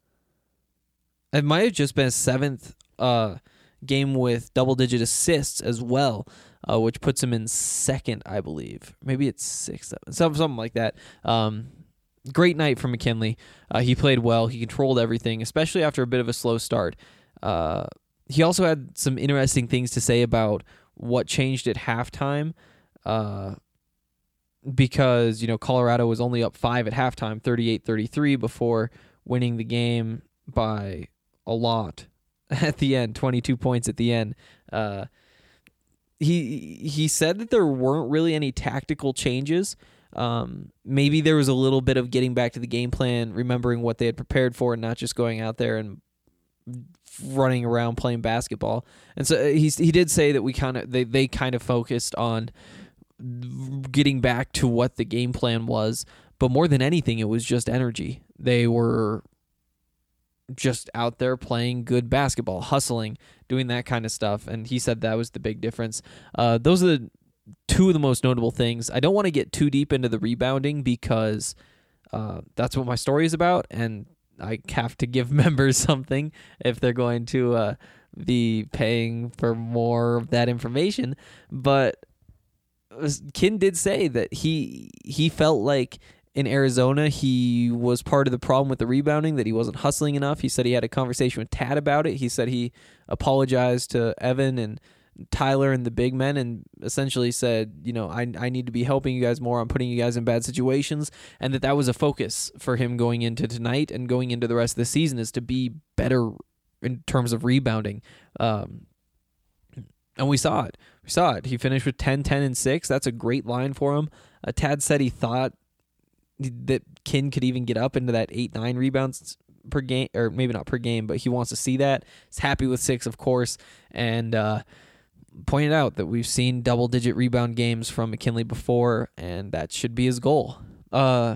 It might have just been his seventh uh, game with double-digit assists as well, uh, which puts him in second, I believe. Maybe it's sixth, seven, something like that. Um, Great night for McKinley. Uh, he played well. He controlled everything, especially after a bit of a slow start. Uh, he also had some interesting things to say about what changed at halftime, uh, because, you know, Colorado was only up five at halftime, thirty-eight thirty-three, before winning the game by a lot at the end, twenty-two points at the end. Uh, he he said that there weren't really any tactical changes. Um, maybe there was a little bit of getting back to the game plan, remembering what they had prepared for, and not just going out there and running around playing basketball. And so he he did say that we kind of they they kind of focused on getting back to what the game plan was, but more than anything, it was just energy. They were just out there playing good basketball, hustling, doing that kind of stuff, and he said that was the big difference. Uh, those are the two of the most notable things. I don't want to get too deep into the rebounding because uh, that's what my story is about, and I have to give members something if they're going to uh, be paying for more of that information. But Kin did say that he he felt like in Arizona he was part of the problem with the rebounding, that he wasn't hustling enough. He said he had a conversation with Tad about it. He said he apologized to Evan and Tyler and the big men and essentially said, you know, I I need to be helping you guys more. I'm putting you guys in bad situations, and that that was a focus for him going into tonight and going into the rest of the season, is to be better in terms of rebounding. Um, and we saw it. We saw it. He finished with ten, ten, and six. That's a great line for him. Uh, Tad said he thought that Kin could even get up into that eight, nine rebounds per game, or maybe not per game, but he wants to see that. He's happy with six, of course, and uh, pointed out that we've seen double-digit rebound games from McKinley before, and that should be his goal. Uh,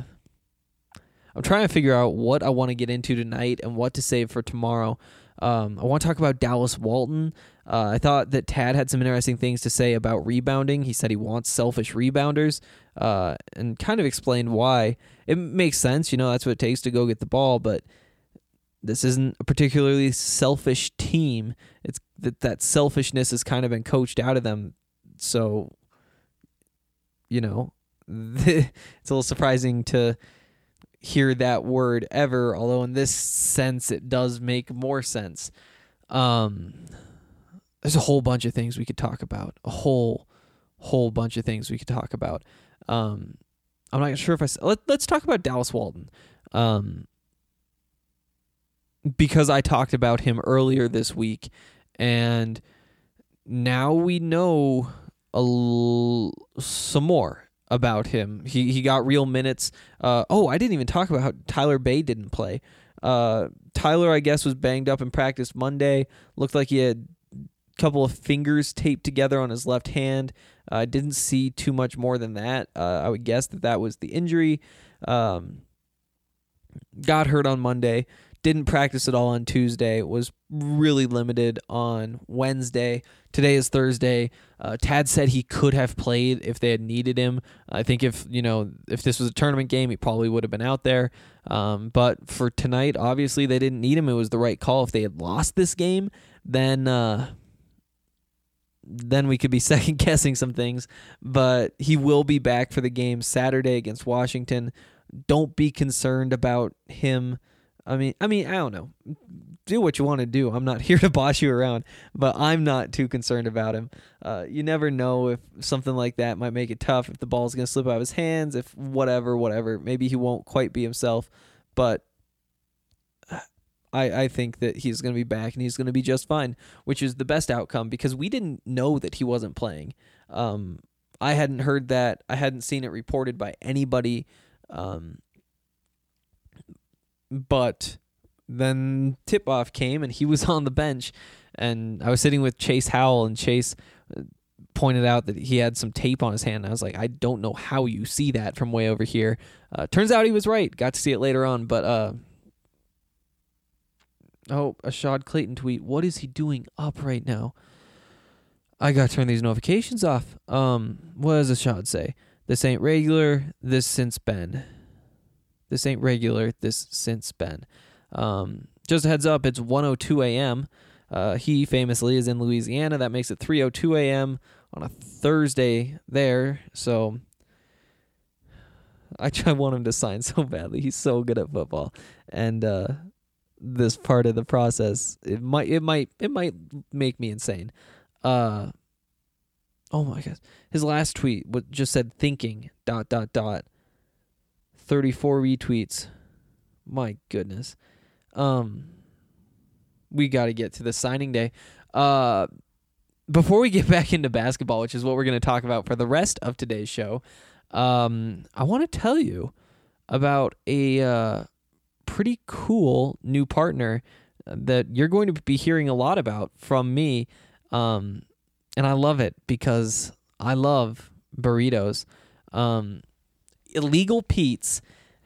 I'm trying to figure out what I want to get into tonight and what to save for tomorrow. Um, I want to talk about Dallas Walton. Uh, I thought that Tad had some interesting things to say about rebounding. He said he wants selfish rebounders, uh, and kind of explained why. It makes sense, you know, that's what it takes to go get the ball, but this isn't a particularly selfish team. It's that that selfishness has kind of been coached out of them. So, you know, it's a little surprising to hear that word ever, although in this sense it does make more sense. Um, there's a whole bunch of things we could talk about. A whole, whole bunch of things we could talk about. Um, I'm not sure if I... Let, let's talk about Dallas Walton. Um, because I talked about him earlier this week, and now we know a l- some more about him. He he got real minutes. Uh, oh, I didn't even talk about how Tyler Bay didn't play. Uh, Tyler, I guess, was banged up in practice Monday. Looked like he had a couple of fingers taped together on his left hand. I uh, didn't see too much more than that. Uh, I would guess that that was the injury. Um, got hurt on Monday. Didn't practice at all on Tuesday. Was really limited on Wednesday. Today is Thursday. Uh, Tad said he could have played if they had needed him. I think if you know if this was a tournament game, he probably would have been out there. Um, but for tonight, obviously they didn't need him. It was the right call. If they had lost this game, then uh, then we could be second guessing some things. But he will be back for the game Saturday against Washington. Don't be concerned about him. I mean, I mean, I don't know. Do what you want to do. I'm not here to boss you around, but I'm not too concerned about him. Uh, you never know if something like that might make it tough, if the ball's going to slip out of his hands, if whatever, whatever. Maybe he won't quite be himself, but I, I think that he's going to be back and he's going to be just fine, which is the best outcome because we didn't know that he wasn't playing. Um, I hadn't heard that. I hadn't seen it reported by anybody. Um, But then tip-off came, and he was on the bench, and I was sitting with Chase Howell, and Chase pointed out that he had some tape on his hand. And I was like, I don't know how you see that from way over here. Uh, turns out he was right. Got to see it later on, but uh, oh, a Shad Clayton tweet. What is he doing up right now? I got to turn these notifications off. Um, what does a Shad say? This ain't regular. This since been. This ain't regular. This since been. Um, just a heads up, it's one oh two a.m. Uh, he famously is in Louisiana. That makes it three oh two a.m. on a Thursday there. So I try want him to sign so badly. He's so good at football. And uh, this part of the process, it might it might it might make me insane. Uh, oh my gosh. His last tweet just said thinking dot dot dot. thirty-four retweets. My goodness. Um, we got to get to the signing day. Uh, before we get back into basketball, which is what we're going to talk about for the rest of today's show, um, I want to tell you about a uh, pretty cool new partner that you're going to be hearing a lot about from me. Um, and I love it because I love burritos. Um, Illegal Pete's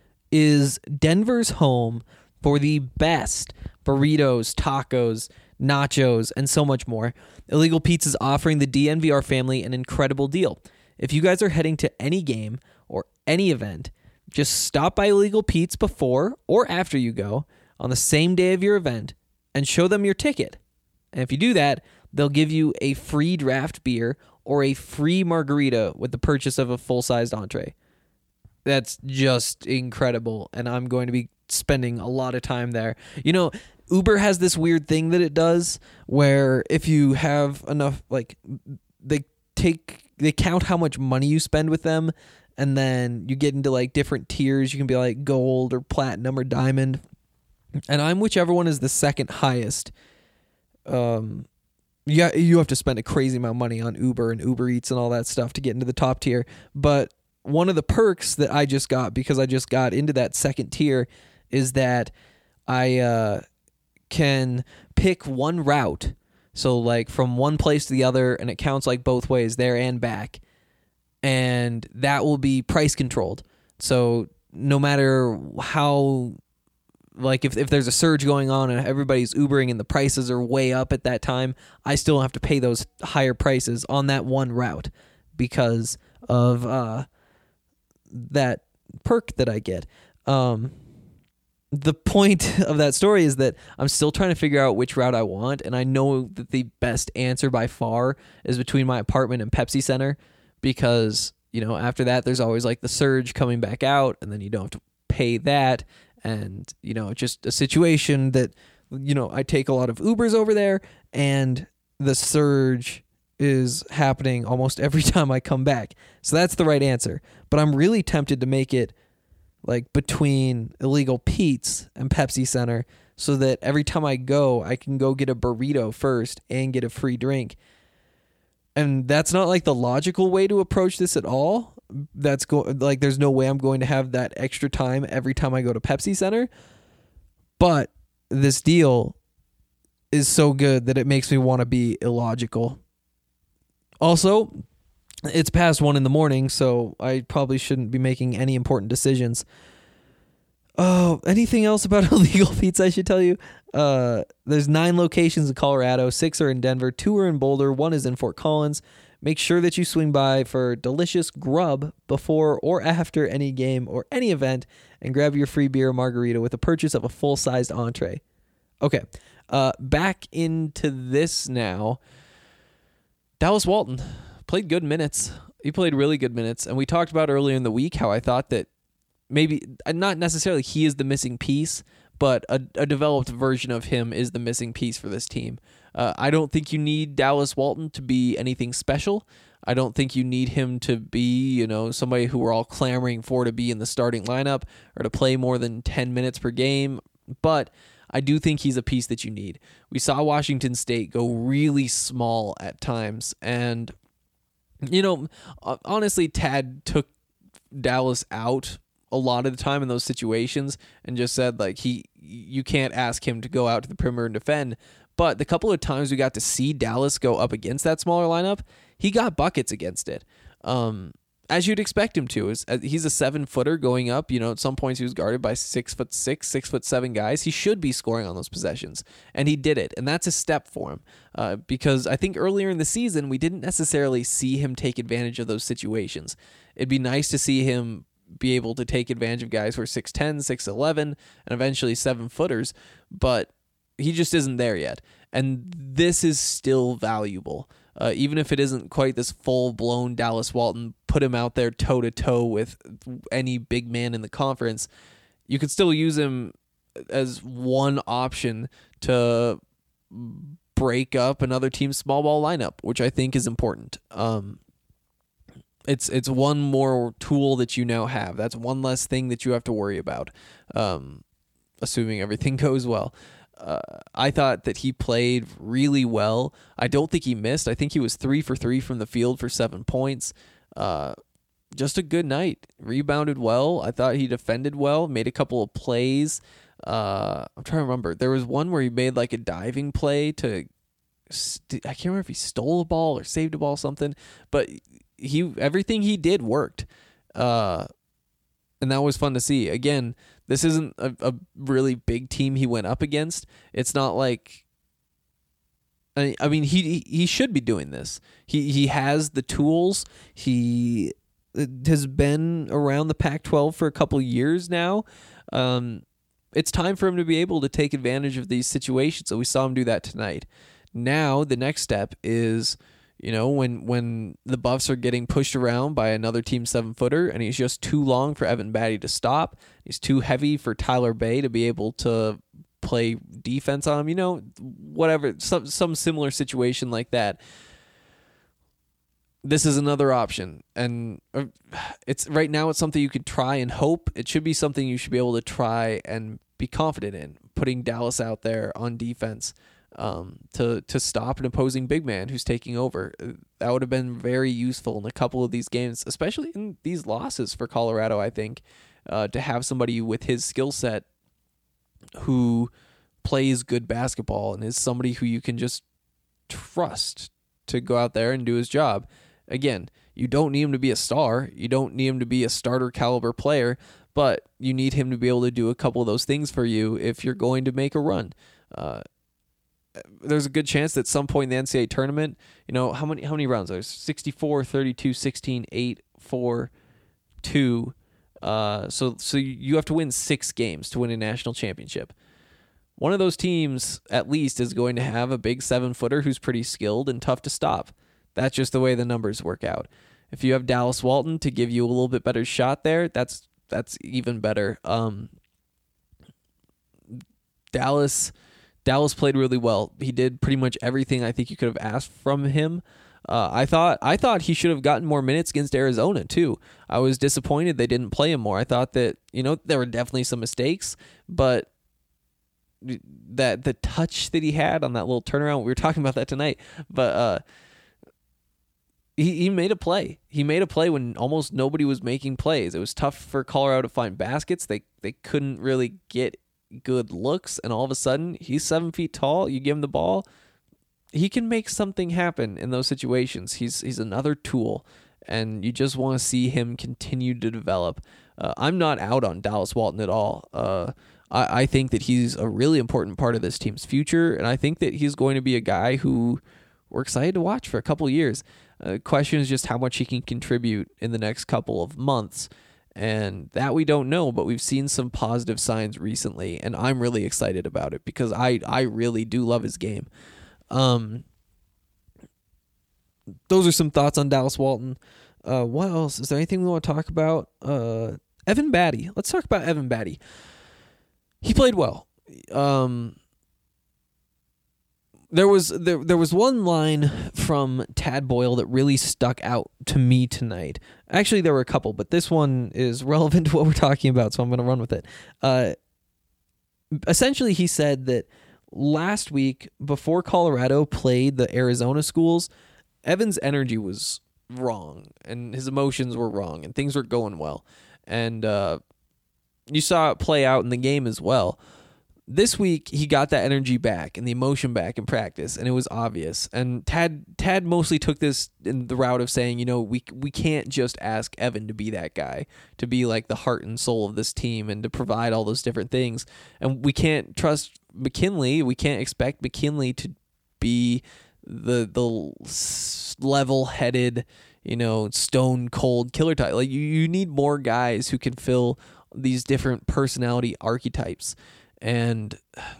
is Denver's home for the best burritos, tacos, nachos, and so much more. Illegal Pete's is offering the D N V R family an incredible deal. If you guys are heading to any game or any event, just stop by Illegal Pete's before or after you go on the same day of your event and show them your ticket. And if you do that, they'll give you a free draft beer or a free margarita with the purchase of a full-sized entree. That's just incredible, and I'm going to be spending a lot of time there. You know, Uber has this weird thing that it does where if you have enough, like, they take, they count how much money you spend with them, and then you get into, like, different tiers. You can be, like, gold or platinum or diamond, and I'm whichever one is the second highest. Um, yeah, you have to spend a crazy amount of money on Uber and Uber Eats and all that stuff to get into the top tier, but one of the perks that I just got because I just got into that second tier is that I uh, can pick one route. So like from one place to the other, and it counts like both ways, there and back. And that will be price controlled. So no matter how, like if, if there's a surge going on and everybody's Ubering and the prices are way up at that time, I still have to pay those higher prices on that one route because of uh, that perk that I get. Um, the point of that story is that I'm still trying to figure out which route I want, and I know that the best answer by far is between my apartment and Pepsi Center because, you know, after that there's always like the surge coming back out, and then you don't have to pay that, and, you know, it's just a situation that, you know, I take a lot of Ubers over there, and the surge is happening almost every time I come back. So that's the right answer. But I'm really tempted to make it like between Illegal Pete's and Pepsi Center so that every time I go, I can go get a burrito first and get a free drink. And that's not like the logical way to approach this at all. That's go like there's no way I'm going to have that extra time every time I go to Pepsi Center. But this deal is so good that it makes me want to be illogical. Also, it's past one in the morning, so I probably shouldn't be making any important decisions. Oh, anything else about Illegal Pete's I should tell you? Uh, there's nine locations in Colorado, six are in Denver, two are in Boulder, one is in Fort Collins. Make sure that you swing by for delicious grub before or after any game or any event and grab your free beer or margarita with the purchase of a full-sized entree. Okay, uh, back into this now. Dallas Walton played good minutes. He played really good minutes. And we talked about earlier in the week how I thought that maybe, not necessarily he is the missing piece, but a, a developed version of him is the missing piece for this team. Uh, I don't think you need Dallas Walton to be anything special. I don't think you need him to be, you know, somebody who we're all clamoring for to be in the starting lineup or to play more than ten minutes per game. But I do think he's a piece that you need. We saw Washington State go really small at times. And, you know, honestly, Tad took Dallas out a lot of the time in those situations and just said, like, he, you can't ask him to go out to the perimeter and defend. But the couple of times we got to see Dallas go up against that smaller lineup, he got buckets against it. Um, as you'd expect him to. Is he's a seven footer going up. You know, at some points he was guarded by six foot six, six foot seven guys. He should be scoring on those possessions, and he did it. And that's a step for him uh, because I think earlier in the season we didn't necessarily see him take advantage of those situations. It'd be nice to see him be able to take advantage of guys who are six ten, six eleven, and eventually seven footers, but he just isn't there yet. And this is still valuable. Uh, even if it isn't quite this full-blown Dallas Walton, put him out there toe-to-toe with any big man in the conference, you could still use him as one option to break up another team's small ball lineup, which I think is important. Um, it's it's one more tool that you now have. That's one less thing that you have to worry about, um, assuming everything goes well. Uh, I thought that he played really well. I don't think he missed. I think he was three for three from the field for seven points. Uh, just a good night. Rebounded well. I thought he defended well, made a couple of plays. Uh, I'm trying to remember. There was one where he made like a diving play to, st- I can't remember if he stole a ball or saved a ball or something, but he everything he did worked. Uh, and that was fun to see. Again, this isn't a, a really big team he went up against. It's not like, I, I mean, he he should be doing this. He he has the tools. He has been around the Pac twelve for a couple years now. Um, it's time for him to be able to take advantage of these situations. So we saw him do that tonight. Now the next step is, you know, when when the Buffs are getting pushed around by another team seven footer and he's just too long for Evan Batty to stop. He's too heavy for Tyler Bay to be able to play defense on him. You know, whatever, some some similar situation like that. This is another option, and it's right now it's something you could try and hope. It should be something you should be able to try and be confident in, putting Dallas out there on defense um, to to stop an opposing big man who's taking over. That would have been very useful in a couple of these games, especially in these losses for Colorado, I think, uh, to have somebody with his skill set who plays good basketball and is somebody who you can just trust to go out there and do his job. Again, you don't need him to be a star. You don't need him to be a starter caliber player, but you need him to be able to do a couple of those things for you if you're going to make a run. Uh, there's a good chance that at some point in the N C double A tournament, you know, how many how many rounds? There's sixty-four, thirty-two, sixteen, eight, four, two. Uh, so so you have to win six games to win a national championship. One of those teams, at least, is going to have a big seven-footer who's pretty skilled and tough to stop. That's just the way the numbers work out. If you have Dallas Walton to give you a little bit better shot there, that's that's even better. Um, Dallas Dallas played really well. He did pretty much everything I think you could have asked from him. Uh, I thought I thought he should have gotten more minutes against Arizona too. I was disappointed they didn't play him more. I thought that, you know, there were definitely some mistakes, but that the touch that he had on that little turnaround, we were talking about that tonight, but uh, he he made a play. He made a play when almost nobody was making plays. It was tough for Colorado to find baskets. They they couldn't really get good looks, and all of a sudden he's seven feet tall. You give him the ball, he can make something happen in those situations. He's he's another tool, and you just want to see him continue to develop. Uh, I'm not out on Dallas Walton at all. Uh, I, I think that he's a really important part of this team's future, and I think that he's going to be a guy who we're excited to watch for a couple of years. The uh, question is just how much he can contribute in the next couple of months, and that we don't know, but we've seen some positive signs recently, and I'm really excited about it because I, I really do love his game. Um, those are some thoughts on Dallas Walton. Uh, what else? Is there anything we want to talk about? Uh, Evan Batty. Let's talk about Evan Batty. He played well. Um, there was there there was one line from Tad Boyle that really stuck out to me tonight. Actually, there were a couple, but this one is relevant to what we're talking about, so I'm going to run with it. Uh, essentially, he said that last week, before Colorado played the Arizona schools, Evan's energy was wrong, and his emotions were wrong, and things were going well. And uh, you saw it play out in the game as well. This week, he got that energy back and the emotion back in practice, and it was obvious. And Tad Tad mostly took this in the route of saying, you know, we we can't just ask Evan to be that guy, to be like the heart and soul of this team and to provide all those different things. And we can't trust McKinley. We can't expect McKinley to be the the level-headed, you know, stone-cold killer type. Like, you, you need more guys who can fill these different personality archetypes. And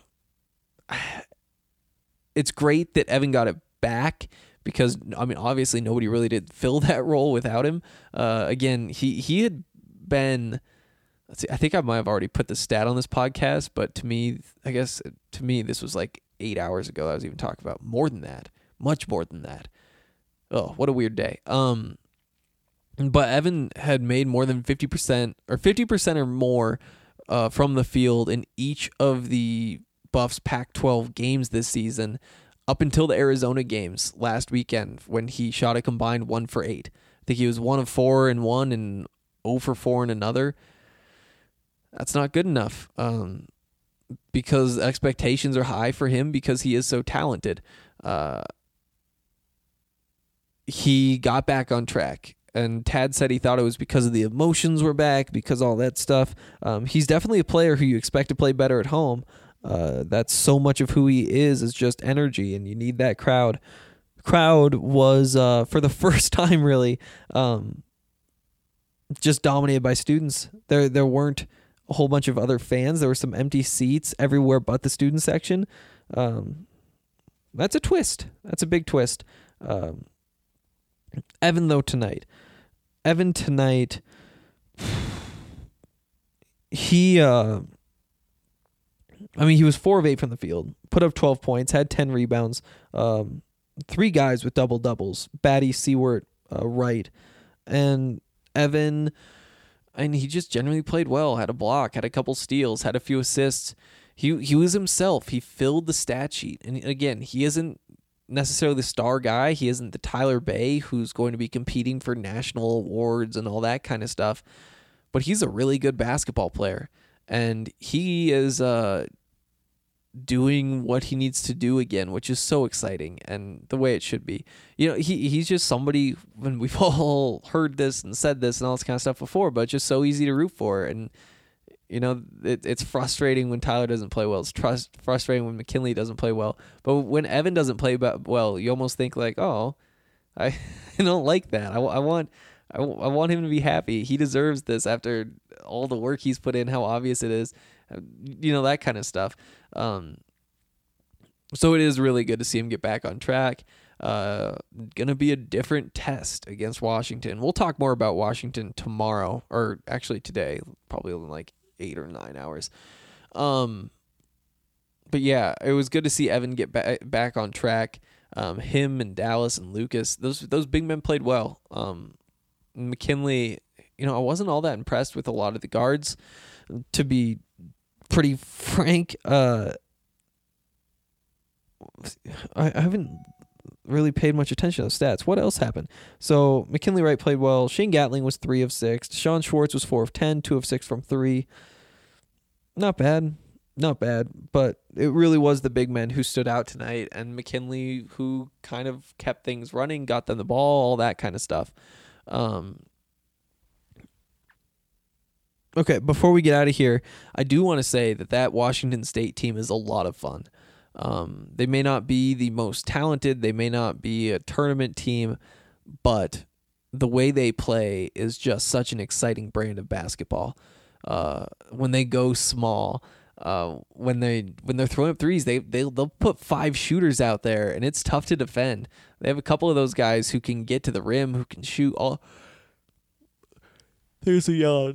it's great that Evan got it back because, I mean, obviously nobody really did fill that role without him. Uh, again, he, he had been, let's see, I think I might have already put the stat on this podcast, but to me, I guess to me, this was like eight hours ago I was even talking about. More than that. Much more than that. Oh, what a weird day. Um, but Evan had made more than fifty percent or fifty percent or more Uh, from the field in each of the Buffs Pac twelve games this season up until the Arizona games last weekend when he shot a combined one for eight. I think he was one of four in one and zero for four in another. That's not good enough um, because expectations are high for him because he is so talented. Uh, he got back on track. And Tad said he thought it was because of the emotions were back, because all that stuff. Um, he's definitely a player who you expect to play better at home. Uh, that's so much of who he is, is just energy, and you need that crowd. Crowd was, uh, for the first time, really, um, just dominated by students. There, there weren't a whole bunch of other fans. There were some empty seats everywhere but the student section. Um, that's a twist. That's a big twist. Um, Evan, though, tonight. Evan, tonight, he, uh, I mean, he was four of eight from the field, put up twelve points, had ten rebounds, um, three guys with double-doubles, Batty, Seward, uh, Wright, and Evan, and he just generally played well, had a block, had a couple steals, had a few assists. He, he was himself. He filled the stat sheet. And again, he isn't necessarily the star guy. He isn't the Tyler Bay who's going to be competing for national awards and all that kind of stuff, but he's a really good basketball player, and he is uh, doing what he needs to do again, which is so exciting and the way it should be. You know, he he's just somebody, when we've all heard this and said this and all this kind of stuff before, but it's just so easy to root for. And you know, it, it's frustrating when Tyler doesn't play well. It's trust, frustrating when McKinley doesn't play well. But when Evan doesn't play well, you almost think like, oh, I, I don't like that. I, I want I, I want him to be happy. He deserves this after all the work he's put in, how obvious it is, you know, that kind of stuff. Um, so it is really good to see him get back on track. Uh, gonna be a different test against Washington. We'll talk more about Washington tomorrow, or actually today, probably in like eight or nine hours. Um, but yeah, it was good to see Evan get ba- back on track. Um, him and Dallas and Lucas, those those big men played well. Um, McKinley, you know, I wasn't all that impressed with a lot of the guards, to be pretty frank. Uh, I, I haven't really paid much attention to those stats. What else happened? So McKinley Wright played well. Shane Gatling was three of six. Sean Schwartz was four of ten, two of six from three. Not bad. Not bad. But it really was the big men who stood out tonight, and McKinley who kind of kept things running, got them the ball, all that kind of stuff. Um, okay, before we get out of here, I do want to say that that Washington State team is a lot of fun. Um, they may not be the most talented, they may not be a tournament team, but the way they play is just such an exciting brand of basketball. Uh, when they go small, uh, when they when they're throwing up threes, they they they'll put five shooters out there, and it's tough to defend. They have a couple of those guys who can get to the rim, who can shoot. All there's a yawn.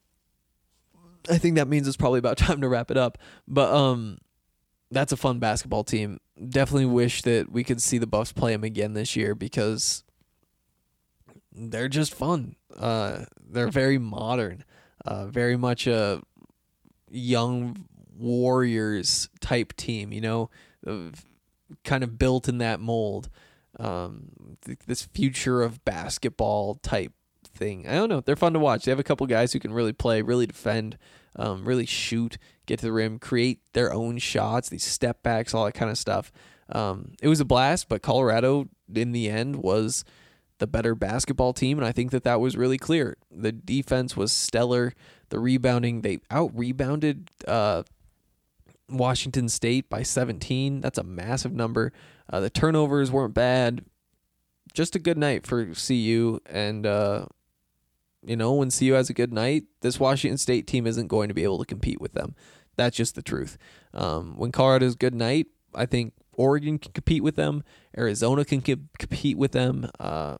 I think that means it's probably about time to wrap it up. But um. That's a fun basketball team. Definitely wish that we could see the Buffs play them again this year because they're just fun. Uh, they're very modern, uh, very much a young Warriors type team, you know, kind of built in that mold. Um, th- this future of basketball type thing. I don't know. They're fun to watch. They have a couple guys who can really play, really defend, um, really shoot, get to the rim, create their own shots, these step backs, all that kind of stuff. Um, it was a blast, but Colorado in the end was the better basketball team, and I think that that was really clear. The defense was stellar. The rebounding, they out-rebounded uh, Washington State by seventeen. That's a massive number. Uh, the turnovers weren't bad. Just a good night for C U, and uh, you know, when C U has a good night, this Washington State team isn't going to be able to compete with them. That's just the truth. Um, when Colorado's good night, I think Oregon can compete with them. Arizona can co- compete with them. Uh,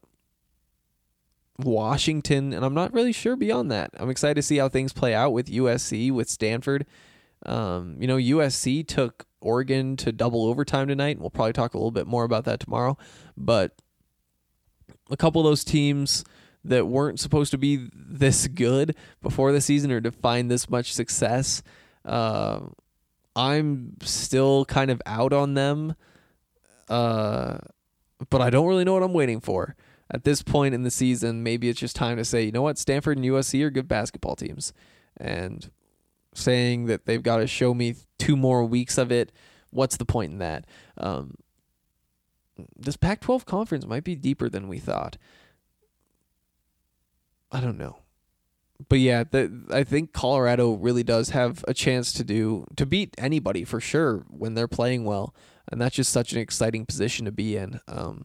Washington, and I'm not really sure beyond that. I'm excited to see how things play out with U S C, with Stanford. Um, you know, U S C took Oregon to double overtime tonight, and we'll probably talk a little bit more about that tomorrow. But a couple of those teams that weren't supposed to be this good before the season or to find this much success, uh, I'm still kind of out on them, uh, but I don't really know what I'm waiting for. At this point in the season, maybe it's just time to say, you know what, Stanford and U S C are good basketball teams. And saying that they've got to show me two more weeks of it, what's the point in that? Um, this Pac twelve conference might be deeper than we thought. I don't know. But yeah, the, I think Colorado really does have a chance to do to beat anybody for sure when they're playing well. And that's just such an exciting position to be in. Um,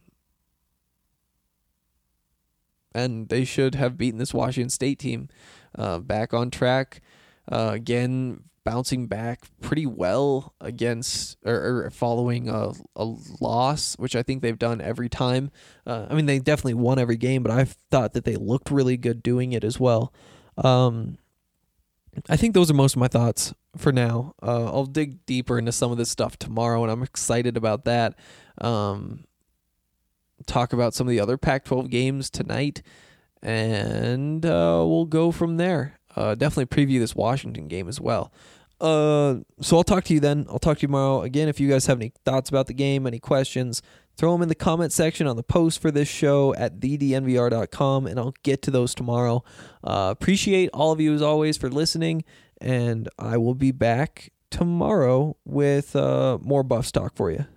and they should have beaten this Washington State team uh, back on track. Uh, again, bouncing back pretty well against or, or following a, a loss, which I think they've done every time. Uh, I mean, they definitely won every game, but I thought that they looked really good doing it as well. Um, I think those are most of my thoughts for now. Uh, I'll dig deeper into some of this stuff tomorrow, and I'm excited about that. Um, talk about some of the other Pac twelve games tonight, and uh, we'll go from there. Uh, definitely preview this Washington game as well. Uh, so I'll talk to you then. I'll talk to you tomorrow. Again, if you guys have any thoughts about the game, any questions, throw them in the comment section on the post for this show at the d n v r dot com, and I'll get to those tomorrow. Uh, appreciate all of you as always for listening, and I will be back tomorrow with uh, more Buffs talk for you.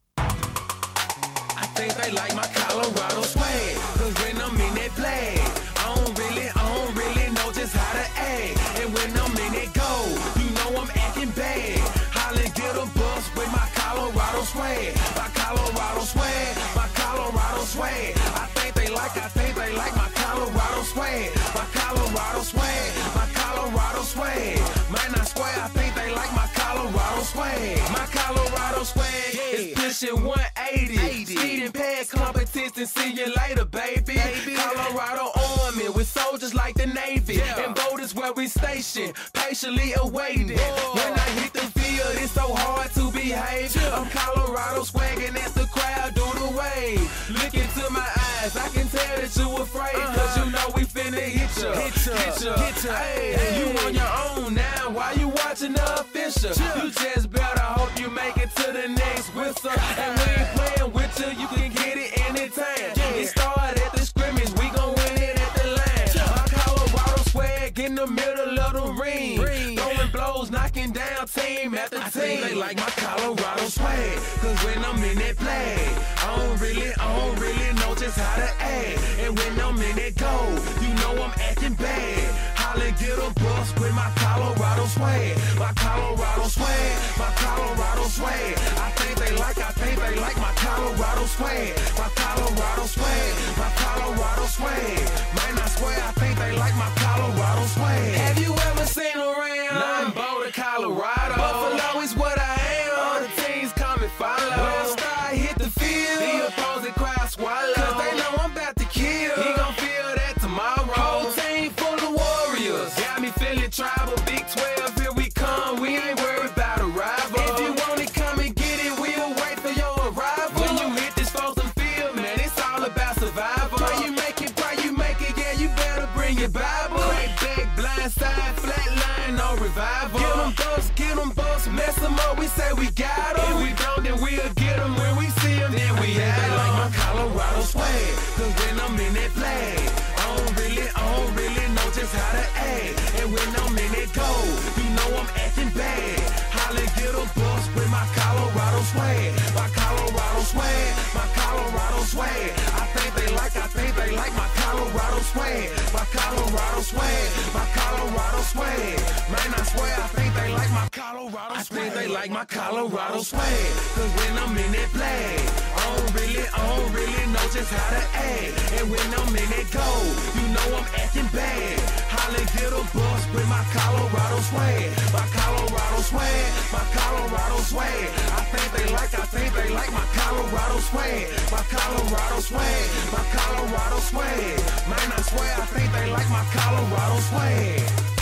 I think they like my Colorado swag, 'cause when I'm in that flag, I don't really, I don't really know just how to act. And when I'm in that goal, you know I'm acting bad. Holla, get a bus with my Colorado swag, my Colorado swag, my Colorado swag. I think they like, I think they like my Colorado swag, my Colorado swag, my Colorado swag. Man, I swear, I think they like my Colorado swag, my Colorado swag is pushing one eighty. Speeding past competition, see you later, baby. baby. Colorado Army with soldiers like the Navy. Yeah. And boat is where we station, patiently awaiting. Whoa. When I hit the field, it's so hard to behave. Yeah. I'm Colorado swagging as the crowd do the wave. Look into my eyes, I can tell that you afraid. Uh-huh. Cause you know we finna hit ya, hit ya, hit ya, hit ya. Hey, hey. You on your own now, why you watching the official? Yeah. You just better hope you make it to the next whistle. And we ain't playing with you, you can get it anytime. Yeah. It started at the scrimmage, we gon' win it at the line. Yeah. My Colorado swag in the middle of the ring. ring. Throwing blows, knocking down team after team. I think they like my Colorado swag, 'cause when I'm in that flag, I don't really, I don't really know just how to act. And when I'm in that goal, you know I'm acting bad. Holla, get a bus with my Colorado swag, my Colorado swag, my Colorado swag. I think they like, I think they like my Colorado swag, my Colorado swag, my Colorado swag. Man, I swear, I think they like my Colorado swag. Have you ever seen around? Nothing Boulder, Colorado. Buffalo is what I am. All the teams come and follow. When I start hit the field, the opposing crowd swallow. 'Cause they know I'm about to kill. He gon' feel that tomorrow. Whole team full of warriors. Got me feeling tribal. Big twelve, here we come. We ain't worried about a rival. If you want it, come and get it. We'll wait for your arrival. When you hit this frozen field, man, it's all about survival. Why you make it, why you make it, yeah, you better bring your Bible. Crack back, blind side, flat line, no revival. Get them busts, get them busts, mess them up, we say we got them. If we don't, then we'll get them. When we see them, then we have them. Like my Colorado swag, 'cause when I'm in that flag, I don't really, I don't really know just how to act. And when I'm in that goal, you know I'm acting bad. Holla, get a bus with my Colorado swag, my Colorado swag, my Colorado swag. I think they like, I think they like my Colorado swag, my Colorado swag, my Colorado swag. Man, I swear, I think they like my Colorado swag. I think they like my Colorado swag, 'cause when I'm in that flag, I don't really, I don't really know just how to act. And when I'm in that goal, you know I'm acting bad. Holla, get a bus with my Colorado swag, my Colorado swag, my Colorado swag. I think they like, I think they like my Colorado swag, my Colorado swag, my Colorado swag. Man, I swear, I think they like my Colorado swag.